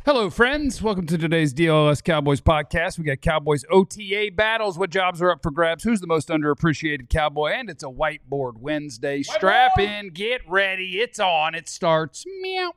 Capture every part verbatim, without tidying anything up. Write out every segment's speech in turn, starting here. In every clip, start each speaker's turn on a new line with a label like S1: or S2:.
S1: Hello, friends. Welcome to today's D L S Cowboys podcast. We got Cowboys O T A battles. What jobs are up for grabs? Who's the most underappreciated Cowboy? And it's a Whiteboard Wednesday. Whiteboard. Strap in, get ready. It's on. It starts. Meow.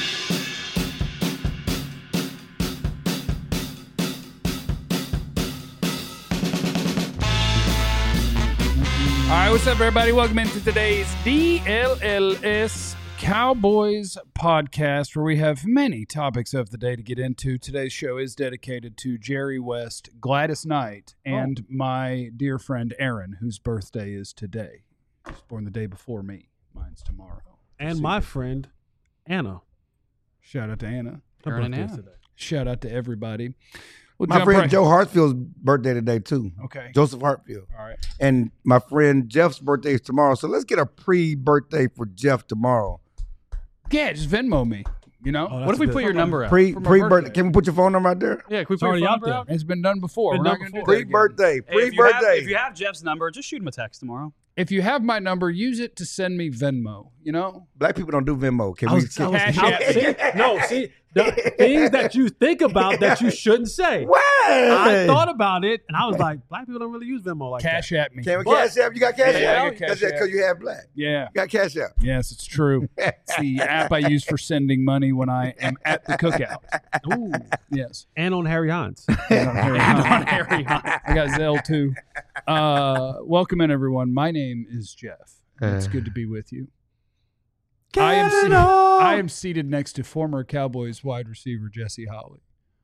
S1: All right, what's up, everybody? Welcome into today's D L L S Cowboys podcast, where we have many topics of the day to get into. Today's show is dedicated to Jerry West, Gladys Knight, and oh. my dear friend Aaron, whose birthday is today. He was born the day before me. Mine's tomorrow.
S2: And my friend Anna.
S1: Shout out to Anna.
S2: Her
S3: Aaron
S2: birthday
S3: and
S2: is
S3: Anna.
S2: today.
S1: Shout out to everybody. Well,
S4: my friend right. Joe Hartfield's birthday today, too.
S1: Okay.
S4: Joseph Hartfield.
S1: All right.
S4: And my friend Jeff's birthday is tomorrow. So let's get a pre-birthday for Jeff tomorrow.
S1: Yeah, just Venmo me. You know?
S3: Oh, what if we put your number out?
S4: Pre, pre-birthday. Can we put your phone number out there?
S3: Yeah, can we
S2: It's
S3: put
S2: already
S3: your phone
S2: out
S3: number
S2: there.
S3: out?
S1: It's been done before.
S2: Been
S1: We're
S2: done
S1: not going to do
S2: before.
S1: that again.
S4: Pre-birthday.
S3: Hey, if you have-
S4: Pre-birthday.
S3: If you have Jeff's number, just shoot him a text tomorrow.
S1: If you have my number, use it to send me Venmo, you know?
S4: Black people don't do Venmo. Can
S2: I
S4: we?
S2: was, I
S4: Can,
S2: was,
S1: Cash
S2: I-
S1: App.
S2: see, no, see, the things that you think about that you shouldn't say.
S4: what?
S2: I thought about it, and I was like, black people don't really use Venmo like
S1: Cash
S2: that.
S1: at me.
S4: Can we
S2: But-
S4: cash app? You got cash
S1: Yeah, I
S4: app?
S1: got Cash
S4: That's
S1: App.
S4: because you have black.
S1: Yeah.
S4: You got cash app.
S1: Yes, it's true. It's the app I use for sending money when I am at the cookout.
S2: Ooh.
S1: Yes.
S2: And on Harry Hines.
S1: And on Harry
S3: And
S1: Hunt.
S3: on Harry Hunt.
S1: I got Zelle too. Uh, welcome in, everyone. My name is Jeff. It's good to be with you. I am, seated, I am seated next to former Cowboys wide receiver Jesse Holley.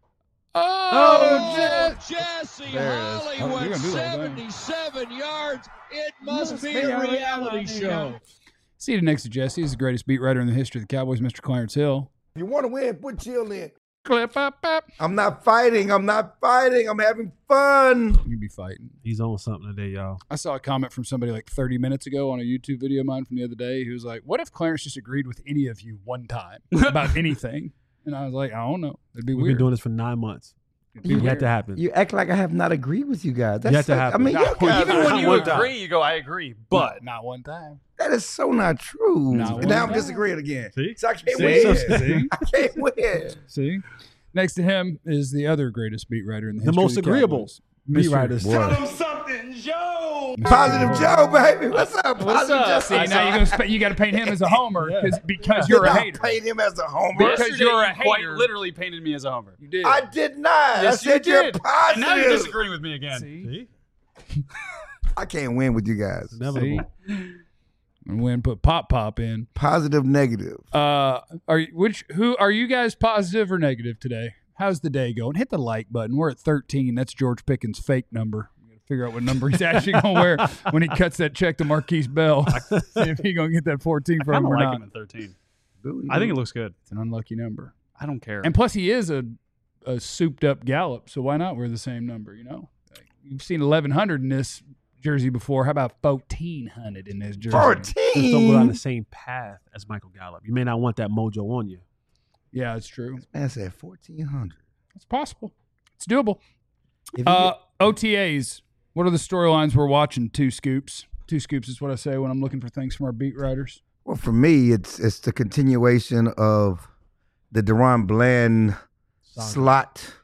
S1: Oh,
S5: Oh,
S1: Jeff.
S5: Jesse
S1: There it is.
S5: Holly
S1: Oh, you're
S5: went
S1: gonna do that, don't you?
S5: seventy-seven yards. It must be a reality show.
S1: Seated next to Jesse is the greatest beat writer in the history of the Cowboys, Mister Clarence Hill.
S4: If you want to win, put chill in.
S1: Clip up, up.
S4: I'm not fighting. I'm not fighting. I'm having fun.
S1: You can be fighting.
S2: He's on something today, y'all.
S1: I saw a comment from somebody like thirty minutes ago on a YouTube video of mine from the other day. He was like, what if Clarence just agreed with any of you one time about anything? And I was like, I don't know. It'd be
S2: We've
S1: weird.
S2: been doing this for nine months.
S1: It'd be
S2: It had
S1: weird.
S2: to happen.
S4: You act like I have not agreed with you guys. That's
S2: Yet to
S4: so-
S2: happen.
S4: I mean, you guys,
S3: Even when you
S2: One time.
S3: agree, you go, I agree.
S1: But
S3: But
S1: not one time.
S4: that is so not true.
S1: Not
S4: And
S1: one
S4: now I'm
S1: time.
S4: disagreeing again.
S2: See?
S4: So I can't
S1: See?
S4: win.
S1: See?
S4: I can't win.
S1: See? Next to him is the other greatest beat writer in the
S2: The
S1: history
S2: most
S1: of the
S2: agreeable
S1: Cowboys,
S2: beat
S1: Mister
S2: writers.
S4: What?
S5: something, Joe.
S4: Positive Joe, baby. What's up?
S3: What's
S4: Positive
S3: up?
S4: Joe.
S1: See, now you're gonna sp- you got to paint him as a homer
S2: Yeah.
S1: because because
S4: Did
S1: you're a
S4: not
S1: hater.
S4: paint him as a homer.
S1: Because
S3: yesterday
S1: you're a
S3: you quite
S1: hater.
S3: literally painted me as a homer.
S1: You did.
S4: I did not.
S3: Yes,
S4: I said
S3: you
S4: you're
S3: did.
S4: positive.
S3: And now you're disagreeing with me again.
S1: See?
S2: See?
S4: I can't win with you guys.
S2: It's inevitable.
S1: See? And when put pop pop in.
S4: Positive, negative.
S1: Uh, are you, which who are you guys positive or negative today? How's the day going? Hit the like button. We're at thirteen. That's George Pickens' fake number. We got to figure out what number he's actually gonna wear when he cuts that check to Marquise Bell. See if he's gonna get that fourteen
S3: I
S1: from
S3: kind
S1: him
S3: of
S1: or
S3: like
S1: not.
S3: him at thirteen.
S4: Really?
S3: I think it looks good.
S1: It's an unlucky number.
S3: I don't care.
S1: And plus, he is a a souped up Gallup, so why not wear the same number? You know, like, you've seen eleven hundred in this jersey before. How about fourteen hundred in this jersey?
S2: Just don't go down
S4: fourteen.
S2: the same path as Michael Gallup. You may not want that mojo on you.
S1: Yeah, it's true.
S4: Man said fourteen hundred.
S1: It's possible. It's doable.
S4: If you
S1: Uh, O T As. What are the storylines we're watching? Two scoops. Two scoops is what I say when I'm looking for things from our beat writers.
S4: Well, for me, it's it's the continuation of the Deron Bland
S2: Saga.
S4: slot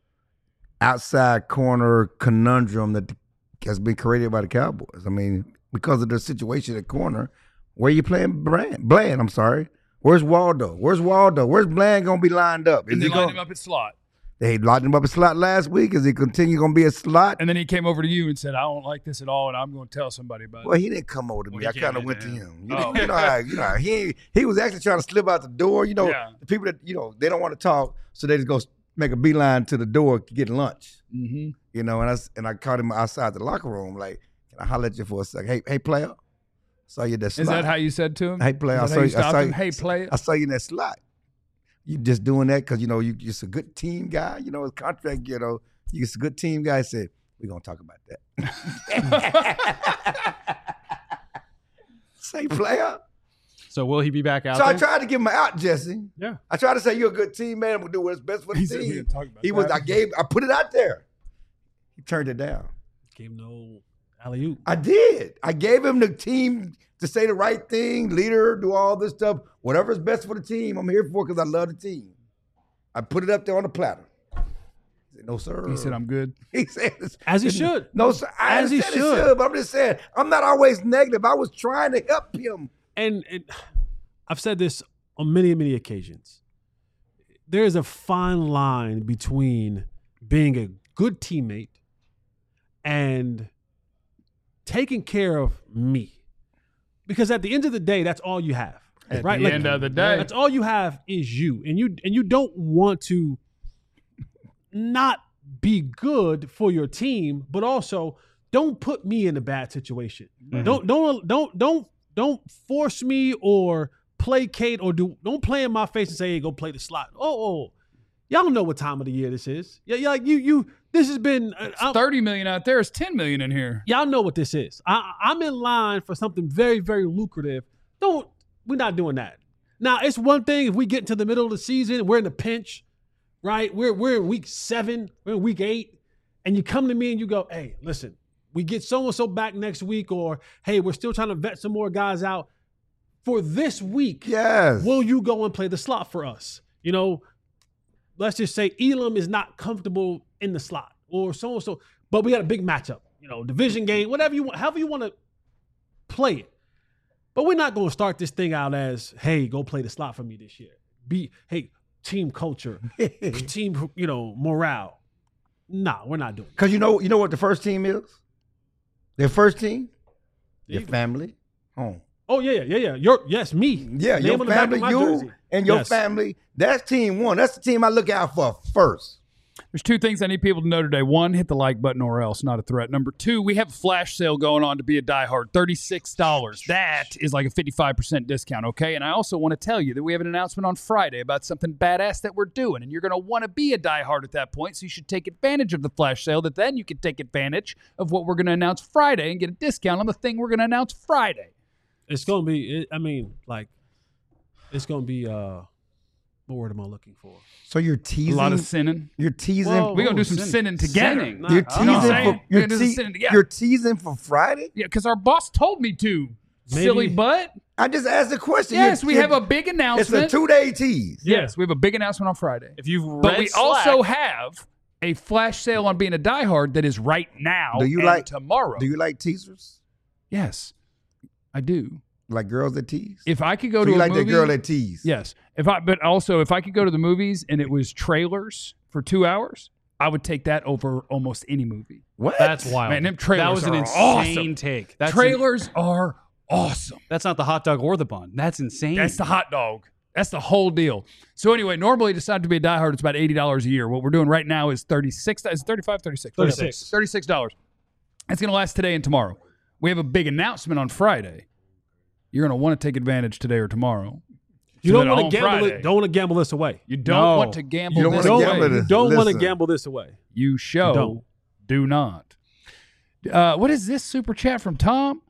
S4: outside corner conundrum that has been created by the Cowboys. I mean, because of their situation at corner, where you playing Bland? Bland, I'm sorry. Where's Waldo? Where's Waldo? Where's Bland going to be lined up? Is
S1: And they
S4: he
S1: lined
S4: going?
S1: him up at slot.
S4: They locked him up a slot last week. Is he continue going to be a slot?
S1: And then he came over to you and said, I don't like this at all, and I'm going to tell somebody about
S4: Well,
S1: it.
S4: he didn't come over to me.
S3: Well,
S4: I
S3: he
S4: kind of
S3: came
S4: went to
S3: into
S4: him.
S3: him.
S4: You know,
S3: Oh.
S4: you know, how, you know how he he was actually trying to slip out the door. You know,
S1: Yeah.
S4: the people that you know they don't want to talk, so they just go make a beeline to the door to get lunch.
S1: Mm-hmm.
S4: You know, and I s- and I caught him outside the locker room. Like, can I holler at you for a second? Hey, hey, player, saw you in that slot.
S1: Is that how you said to him?
S4: Hey, player, I
S1: Is that
S4: saw
S1: how
S4: you.
S1: you
S4: I
S1: stopped
S4: saw
S1: him?
S4: you.
S1: Hey, player.
S4: I saw you in that slot. You just doing that because you know you just a good team guy. You know, his contract. You know, you just a good team guy. I said we're gonna talk about that. Say, player.
S3: So will he be back out
S4: So I
S3: there?
S4: tried to give him an out, Jesse.
S2: Yeah.
S4: I tried to say you're a good team man. We'll do what's best for the
S1: He said we
S4: team.
S1: didn't talk about
S4: He was.
S1: that.
S4: I gave. I put it out there. He turned it down.
S2: Gave no alley oop.
S4: I did. I gave him the team to say the right thing, leader, do all this stuff. Whatever's best for the team, I'm here for because I love the team. I put it up there on the platter. I said, no, sir.
S1: He said, I'm good.
S4: He said,
S2: As he should.
S4: No, sir. I
S2: As he
S4: understand
S2: should.
S4: should. But I'm just saying, I'm not always negative. I was trying to help him.
S2: And, and I've said this on many, many occasions. There is a fine line between being a good teammate and taking care of me. Because at the end of the day, that's all you have.
S1: At
S2: right?
S1: the
S2: Like,
S1: end of the day.
S2: that's all you have is you. And you and you don't want to not be good for your team, but also don't put me in a bad situation.
S3: Mm-hmm.
S2: Don't don't don't don't don't force me or placate or do don't play in my face and say, hey, go play the slot. Oh, oh. Y'all know what time of the year this is. Yeah, yeah, like you you this has been uh,
S1: It's thirty million out there. It's ten million in here.
S2: y'all know what this is. I, I'm in line for something very, very lucrative. Don't, we're not doing that. Now, it's one thing if we get into the middle of the season, we're in the pinch, right? We're we're in week seven, we're in week eight, and you come to me and you go, hey, listen, we get so-and-so back next week, or hey, we're still trying to vet some more guys out. For this week,
S4: Yes.
S2: will you go and play the slot for us? You know, let's just say Elam is not comfortable in the slot or so and so, but we got a big matchup, you know, division game, whatever you want, however you want to play it. But we're not going to start this thing out as, hey, go play the slot for me this year. Be, hey, team culture, team, you know, morale. Nah, we're not doing it.
S4: Because you know, you know what the first team is? Their first team? Your
S2: Yeah.
S4: family, home.
S2: Oh, yeah, yeah, yeah, yeah. Your, yes, me.
S4: Yeah,
S2: Name
S4: your
S2: on the back of
S4: family,
S2: my
S4: you
S2: jersey.
S4: and your
S2: Yes.
S4: family. That's team one. That's the team I look out for first.
S1: There's two things I need people to know today. One, hit the like button or else, not a threat. Number two, we have a flash sale going on to be a diehard, thirty-six dollars. That is like a fifty-five percent discount, okay? And I also want to tell you that we have an announcement on Friday about something badass that we're doing, and you're going to want to be a diehard at that point, so you should take advantage of the flash sale, that then you can take advantage of what we're going to announce Friday and get a discount on the thing we're going to announce Friday.
S2: It's going to be, it, I mean, like, it's going to be, uh, what word am I looking for?
S4: So you're
S1: A
S4: teasing.
S1: lot of sinning.
S4: You're teasing.
S2: Well,
S1: We're going to do
S3: Ooh,
S1: some
S3: sin-
S1: sinning together.
S3: sinning.
S4: you're
S2: Oh.
S1: You know what
S4: teasing
S1: I'm
S4: for.
S1: saying?
S4: You're,
S1: We're gonna do some
S4: te-
S1: sinning together.
S4: you're teasing for Friday.
S1: Yeah, because our boss told me to.
S2: Maybe-
S1: Silly butt.
S4: I just asked the question.
S1: Yes,
S4: You're-
S1: we
S4: you're-
S1: have a big
S4: It's
S1: announcement.
S4: a two-day tease.
S1: Yes, we have a big announcement on Friday.
S3: If you've read
S1: But we
S3: Slack,
S1: also have a flash sale on being a diehard that is right now
S4: Do you
S1: and
S4: like-
S1: tomorrow.
S4: Do you like teasers?
S1: Yes, I do.
S4: Like girls that tease?
S1: If I could go
S4: So
S1: to
S4: you
S1: a
S4: like
S1: movie,
S4: that girl that tease?
S1: yes. If I, but also if I could go to the movies and it was trailers for two hours, I would take that over almost any movie.
S4: What?
S3: that's wild.
S1: Man, them trailers
S3: that was an
S1: are
S3: insane
S1: awesome.
S3: take. That's
S1: Trailers are awesome.
S3: that's not the hot dog or the bun. That's insane.
S1: That's the hot dog. That's the whole deal. So anyway, normally decide to be a diehard, it's about eighty dollars a year. What we're doing right now is thirty-six. Is it thirty-five, thirty-six?
S2: thirty-six.
S1: thirty-six dollars. It's going to last today and tomorrow. We have a big announcement on Friday. You're going to want to take advantage today or tomorrow.
S2: You
S1: So
S2: don't
S1: that
S2: want
S1: on
S2: to gamble
S1: Friday-
S2: it. Don't want to gamble this away.
S1: You don't
S3: No.
S1: want to gamble
S4: You don't
S1: this
S4: wanna
S1: away.
S4: gamble
S2: You
S4: this.
S2: don't want to
S4: Listen.
S2: gamble this away.
S1: You show
S2: You don't.
S1: do not. Uh, what is this super chat from Tom?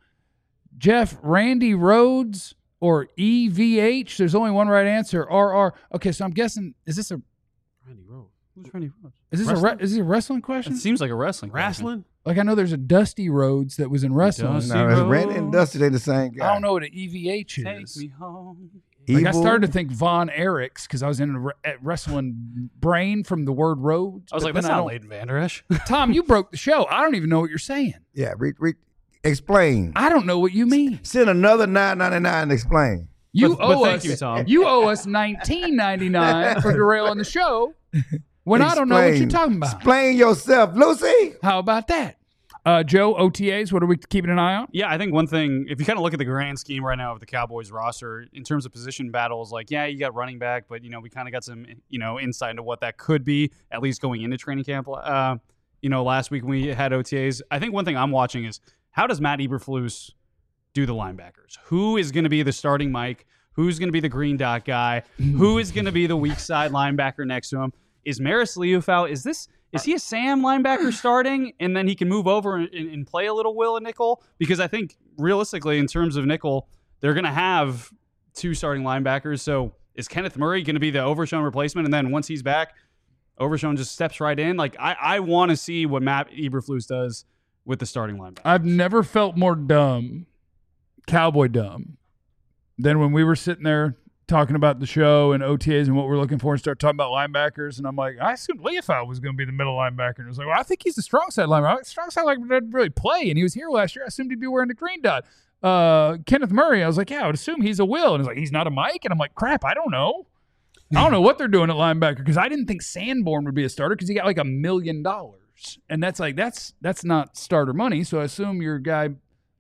S1: Jeff, Randy Rhodes, or E V H? There's only one right answer. R R. Okay, so I'm guessing, is this a
S2: Randy Rhodes.
S3: Who's Randy Rhodes?
S1: is this a re- is this a wrestling question?
S3: It seems like a wrestling. question.
S2: Wrestling?
S1: Like I know there's a Dusty Rhodes that was in wrestling.
S3: Dusty
S4: No, it's
S3: Rhodes.
S4: Randy and Dusty. They the same guy.
S1: I don't know what an E V H
S3: Take
S1: is.
S3: me home.
S1: Like I
S4: Evil.
S1: started to think Von Erichs because I was in a re- at wrestling brain from the word Rhodes.
S3: I was
S1: but
S3: like, that's
S1: then I
S3: not
S1: don't-
S3: Leighton Vander Esch.
S1: Tom, you broke the show. I don't even know what you're saying.
S4: Yeah, re, re, explain.
S1: I don't know what you mean.
S4: Send another nine ninety nine and explain.
S1: You
S3: But-
S1: owe
S3: but thank
S1: us.
S3: you, Tom.
S1: You owe us nineteen ninety-nine for derailing the show when I don't know what you're
S4: Explain.
S1: talking about.
S4: Explain yourself, Lucy.
S1: How about that, uh, Joe? O T As. What are we keeping an eye on?
S3: Yeah, I think one thing, if you kind of look at the grand scheme right now of the Cowboys roster, in terms of position battles, like, yeah, you got running back, but, you know, we kind of got some, you know, insight into what that could be, at least going into training camp. Uh, you know, last week when we had O T As, I think one thing I'm watching is how does Matt Eberflus do the linebackers? Who is going to be the starting Mike? Who's going to be the green dot guy? Who is going to be the weak side linebacker next to him? Is Maris Liufau, is this... Is he a Sam linebacker starting, and then he can move over and, and play a little Will and nickel? Because I think realistically, in terms of nickel, they're going to have two starting linebackers. So is Kenneth Murray going to be the Overshown replacement? And then once he's back, Overshown just steps right in. Like I, I want to see what Matt Eberflus does with the starting linebacker.
S1: I've never felt more dumb, cowboy dumb, than when we were sitting there talking about the show and O T As and what we're looking for and start talking about linebackers. And I'm like, I assumed Leofau was going to be the middle linebacker. And it was like, well, I think he's the strong side linebacker. Strong side linebacker doesn't really play. And he was here last year. I assumed he'd be wearing the green dot. Uh, Kenneth Murray, I was like, yeah, I would assume he's a Will. And he's like, he's not a Mike. And I'm like, crap, I don't know. I don't know what they're doing at linebacker because I didn't think Sanborn would be a starter because he got like a million dollars. And that's like, that's that's not starter money. So I assume your guy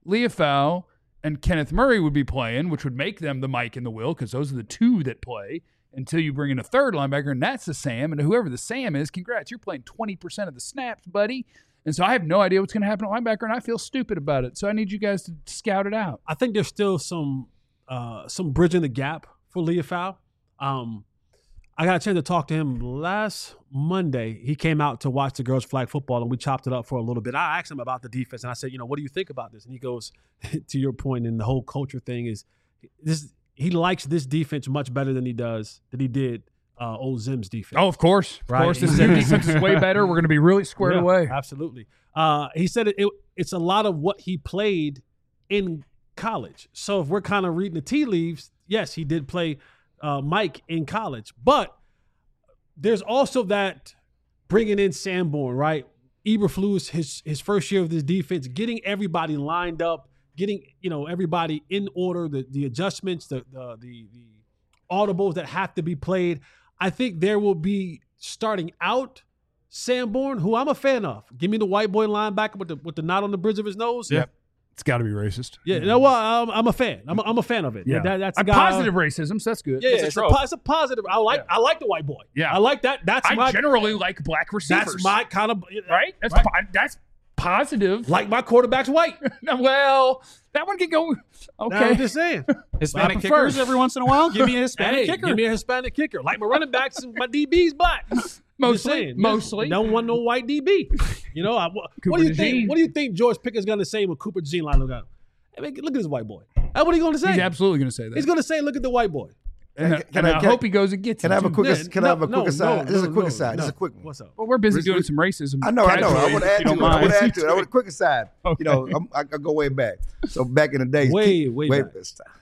S1: Leofau and Kenneth Murray would be playing, which would make them the Mike and the Will because those are the two that play until you bring in a third linebacker, and that's the Sam. And whoever the Sam is, congrats, you're playing twenty percent of the snaps, buddy. And so I have no idea what's going to happen at linebacker, and I feel stupid about it. So I need you guys to scout it out.
S2: I think there's still some uh, some bridging the gap for Leofau. Um, I got a chance to talk to him last Monday. He came out to watch the girls' flag football, and we chopped it up for a little bit. I asked him about the defense, and I said, you know, what do you think about this? And he goes, to your point, and the whole culture thing is this. He likes this defense much better than he does, than he did uh, old Zim's defense.
S1: Oh, of course. Of
S2: Right.
S1: course. This Zim defense is way better. We're going to be really squared
S2: Yeah,
S1: away.
S2: Absolutely. Uh, he said it, it, it's a lot of what he played in college. So if we're kind of reading the tea leaves, yes, he did play uh, Mike in college. But there's also that bringing in Sanborn, right? Eberflus, his his first year of this defense, getting everybody lined up, getting you know everybody in order, the the adjustments, the the the, the audibles that have to be played. I think there will be starting out Sanborn, who I'm a fan of. Give me the white boy linebacker with the with the knot on the bridge of his nose.
S1: Yep. It's got to be racist.
S2: Yeah, you know what? I'm, I'm a fan. I'm a, I'm a fan of it.
S1: Yeah.
S2: That, that's
S1: A
S2: a guy,
S1: positive racism, so that's good.
S2: Yeah,
S1: It's a
S2: it's, a,
S1: trope.
S2: po- it's a positive. I like
S1: Yeah.
S2: I like the white boy.
S1: Yeah.
S2: I like that. That's
S1: I
S2: my
S1: generally like black receivers.
S2: that's my kind of
S1: right? That's
S2: Right.
S1: po- that's positive.
S2: like my quarterback's white.
S1: Well, that one can go.
S2: I'm
S1: Okay.
S2: just saying.
S3: Hispanic
S2: I prefer-
S3: kickers every once in a while. Give me a Hispanic
S2: Hey,
S3: kicker.
S2: give me a Hispanic kicker. Like my running backs and my D B's black. I'm just
S1: Mostly,
S2: saying.
S1: mostly.
S2: Don't want no white D B. You know, I, what,
S1: Cooper
S2: do you
S1: DeJean.
S2: think? What do you think George Pickett's going to say when Cooper DeJean line look at him? Hey, man, look at this white boy. That's what he going to say.
S1: He's absolutely going to say that.
S2: He's going to say, look at the white boy.
S1: and I,
S4: Can
S1: and
S4: I-
S1: I,
S4: can I-
S1: hope he goes and gets
S4: Can
S1: it.
S4: I have a
S1: too.
S4: quick?
S2: Yeah,
S4: Can I have a
S2: no,
S4: quick aside?
S2: no,
S4: This is a
S2: no,
S4: quick
S2: no,
S4: aside. This is
S2: no.
S4: a quick one.
S2: What's up?
S1: Well, we're busy
S4: Re-
S1: doing
S4: re-
S1: some racism.
S4: I know, I know. I
S1: casually,
S4: want to
S1: if
S4: add
S1: you
S4: to
S1: don't
S4: it. I want
S1: mind.
S4: to add to it. I want a quick aside.
S1: Okay.
S4: You know, I'm, I, I go way back. So back in the days,
S2: Way,
S4: keep-
S2: way
S4: wait,
S2: back.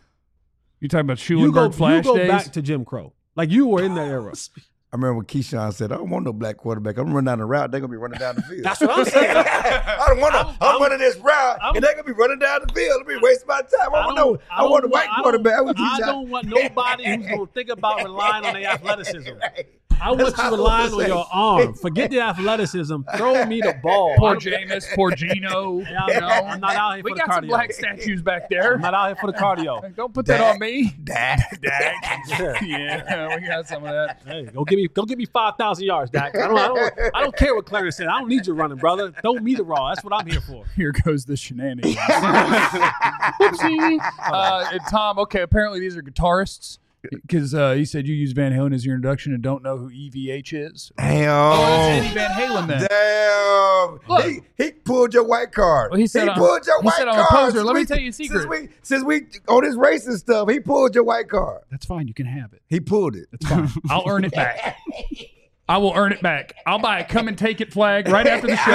S1: You talking about
S2: You go,
S1: Schulenberg Flash
S2: you go
S1: days?
S2: back to Jim Crow. Like you were in that era.
S4: I remember when Keyshawn said, "I don't want no black quarterback. I'm running down the route. They're gonna be running down the field."
S2: That's what I'm saying.
S4: I don't want to. I'm,
S2: I'm-
S4: running this route,
S2: I'm-
S4: and they're gonna be running down the field. They'll be wasting my time. I, want no. I,
S2: don't
S4: want a white
S2: I don't-
S4: quarterback. I want
S2: I
S4: Keyshawn.
S2: don't want nobody who's going to think about relying on their athleticism.
S4: Right.
S2: I want
S4: That's
S2: you
S4: how I
S2: relying
S4: was
S2: on
S4: saying.
S2: your arm. Forget the athleticism. Throw me the ball.
S1: Poor
S2: I don't-
S1: Jameis, poor Gino.
S2: Yeah, I'm,
S1: you know?
S2: I'm not out here
S1: We
S2: for the
S1: got some
S2: cardio.
S1: black statues back there.
S2: I'm not out here for the cardio.
S1: Don't put that
S4: Dak.
S1: on me.
S4: Dak.
S1: Dak. Yeah, we got some of that.
S2: Hey, go give me, go give me five thousand yards, Dak. I don't, I don't, I don't care what Clarence said. I don't need you running, brother. Throw me the raw. That's what I'm here for.
S1: Here goes the shenanigans. Whoopsie. Uh, and Tom, okay, apparently these are guitarists because uh, you said you use Van Halen as your introduction and don't know who E V H is. Oh, that's Eddie
S4: Damn.
S1: Van Halen then.
S4: Damn.
S1: Look.
S4: He, he pulled your white card.
S1: Well, he said
S4: he
S1: I'm-
S4: pulled your
S1: he
S4: white
S1: said I'm a
S4: card.
S1: poser. Let me
S4: Since
S1: tell
S4: we-
S1: you a secret.
S4: Since we, since we on this racist stuff, he pulled your white card.
S1: That's fine. You can have it.
S4: He pulled it.
S1: It's fine. I'll earn it back. I will earn it back. I'll buy a come and take it flag right after the show.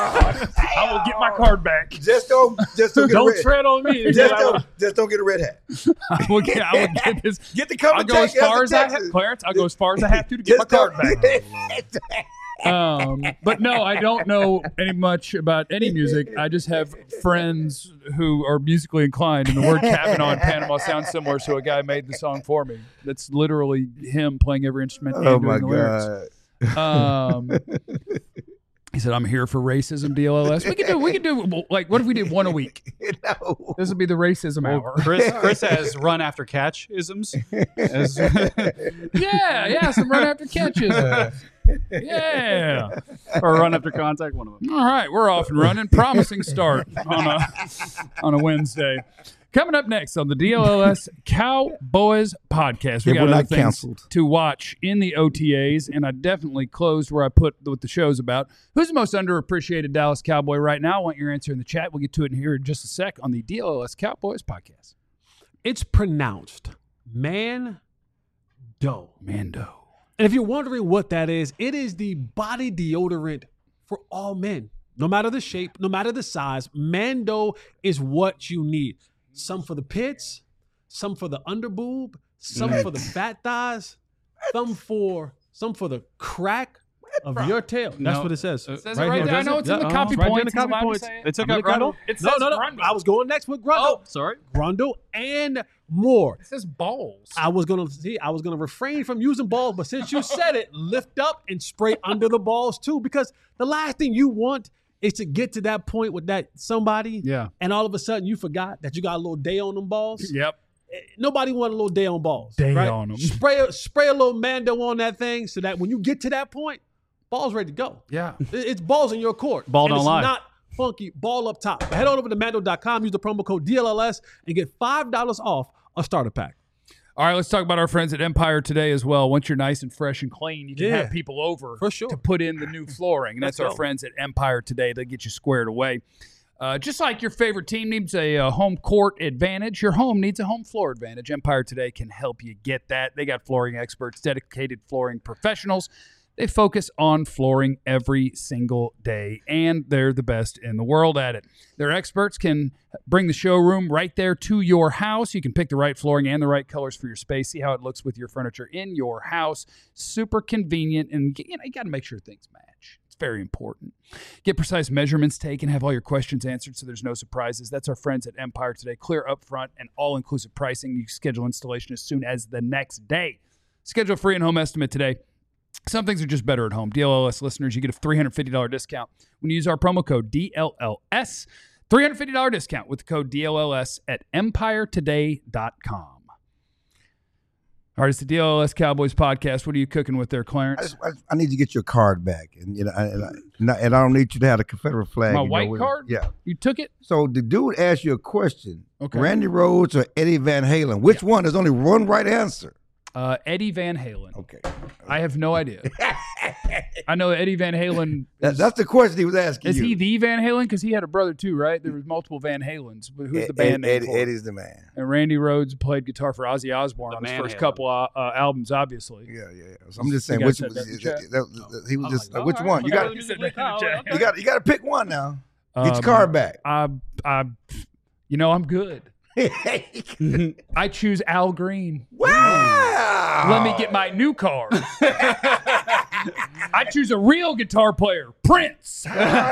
S1: I will get my card back.
S4: Just don't, just don't get a
S2: Don't
S4: red.
S2: tread on me.
S4: Just don't, just don't get a red hat.
S1: I will get, I will get this.
S4: Get the come
S1: I'll
S4: and
S1: go as
S4: take
S1: far
S4: it
S1: as I
S4: Texas.
S1: have, Clarence. I'll go as far as I have to to get my
S4: Just
S1: card
S4: don't-
S1: back. Um, but no, I don't know any much about any music. I just have friends who are musically inclined, and the word Kavanaugh in Panama sounds similar. So a guy made the song for me. That's literally him playing every instrument. and
S4: Oh
S1: doing
S4: my
S1: the lyrics.
S4: God.
S1: Um, he said, "I'm here for racism." D L L S. We could do. We could do like. What if we did one a week?
S4: No.
S1: This would be the racism hour.
S3: Chris, Chris has run after catch isms. As-
S1: Yeah, yeah. Some run after catches. Yeah.
S3: or run after contact, one of them.
S1: All right, we're off and running. Promising start on a on a Wednesday. Coming up next on the D L L S Cowboys podcast, we
S4: If
S1: got
S4: we're
S1: other
S4: not
S1: things
S4: canceled.
S1: to watch in the O T As, and I definitely closed where I put what the show's about. Who's the most underappreciated Dallas Cowboy right now? I want your answer in the chat. We'll get to it in here in just a sec on the D L L S Cowboys podcast.
S2: It's pronounced Mando.
S1: Mando.
S2: And if you're wondering what that is, it is the body deodorant for all men. No matter the shape, no matter the size, Mando is what you need. Some for the pits, some for the underboob, some for the fat thighs, some for some for the crack of your tail. That's
S3: No.
S2: what it says.
S3: It
S1: says it right there. I know it's in the
S2: Yeah,
S1: copy
S2: uh-huh.
S1: points.
S2: Right
S1: It's
S2: there in the
S1: allowed
S2: copy
S1: to
S2: points.
S1: say it.
S3: They took
S2: I'm
S3: out
S2: gonna
S3: Grundle?
S2: go-
S1: It
S2: No,
S1: says
S2: no, no.
S1: Grundle.
S2: I was going next with Grundle.
S3: Oh, sorry.
S2: Grundle and more.
S1: It says balls.
S2: I was gonna see. I was gonna refrain from using balls, but since you said it, lift up and spray under the balls too, because the last thing you want is to get to that point with that somebody,
S1: Yeah.
S2: and all of a sudden you forgot that you got a little day on them balls.
S1: Yep.
S2: Nobody want a little day on balls.
S1: Day
S2: right?
S1: on 'em.
S2: Spray a, spray a little Mando on that thing so that when you get to that point, ball's ready to go.
S1: Yeah.
S2: It- It's balls in your court.
S3: Ball
S2: and
S3: don't
S2: it's
S3: lie.
S2: not funky. Ball up top. Head on over to Mando dot com. Use the promo code D L L S and get five dollars off a starter pack.
S1: All right, let's talk about our friends at Empire Today as well. Once you're nice and fresh and clean, you can
S2: Yeah.
S1: have people over
S2: For sure.
S1: to put in the new flooring. And that's
S2: Let's
S1: our
S2: go.
S1: friends at Empire Today. They get you squared away. Uh, just like your favorite team needs a, uh home court advantage, your home needs a home floor advantage. Empire Today can help you get that. They got flooring experts, dedicated flooring professionals. They focus on flooring every single day, and they're the best in the world at it. Their experts can bring the showroom right there to your house. You can pick the right flooring and the right colors for your space, see how it looks with your furniture in your house. Super convenient, and you know, you got to make sure things match. It's very important. Get precise measurements taken, have all your questions answered so there's no surprises. That's our friends at Empire Today. Clear upfront and all-inclusive pricing. You can schedule installation as soon as the next day. Schedule a free and home estimate today. Some things are just better at home. D L L S listeners, you get a three hundred fifty dollars discount when you use our promo code D L L S. three hundred fifty dollars discount with the code D L L S at empire today dot com. All right, it's the D L L S Cowboys podcast. What are you cooking with there,
S4: I,
S1: Clarence?
S4: just, I, I need you to get your card back, and you know, I, and, I, and I and I don't need you to have a Confederate flag.
S1: My
S4: you know,
S1: white
S4: with-
S1: card?
S4: Yeah.
S1: You took it?
S4: So the dude asked you a question:
S1: Okay.
S4: Randy Rhodes or Eddie Van Halen? Which one? There's only one right answer.
S1: Uh, Eddie Van Halen.
S4: Okay.
S1: I have no idea. I know Eddie Van Halen.
S4: That, that's the question he was asking
S1: Is
S4: you.
S1: he the Van Halen? Because he had a brother too, right? There was multiple Van Halens. But who's the
S4: Ed-
S1: band name
S4: Ed-
S1: for it?
S4: Eddie's the man.
S1: And Randy Rhodes played guitar for Ozzy Osbourne
S3: The
S1: on his
S3: Man
S1: first
S3: Halen.
S1: couple uh, uh, albums, obviously.
S4: Yeah, yeah. yeah. So I'm just saying,
S1: guy
S4: which
S1: said
S4: was,
S1: that in the
S4: that,
S1: chat?
S4: that- that- he was
S2: I'm
S4: just
S2: like,
S4: uh, which
S2: all
S4: one?
S2: right,
S4: You got
S2: okay.
S1: You said that in the chat.
S4: you got you got to pick one now. Get your
S1: Um,
S4: card back.
S1: I, I, you know, I'm good. I choose Al Green.
S4: Wow.
S1: Let me get my new card. I choose a real guitar player, Prince.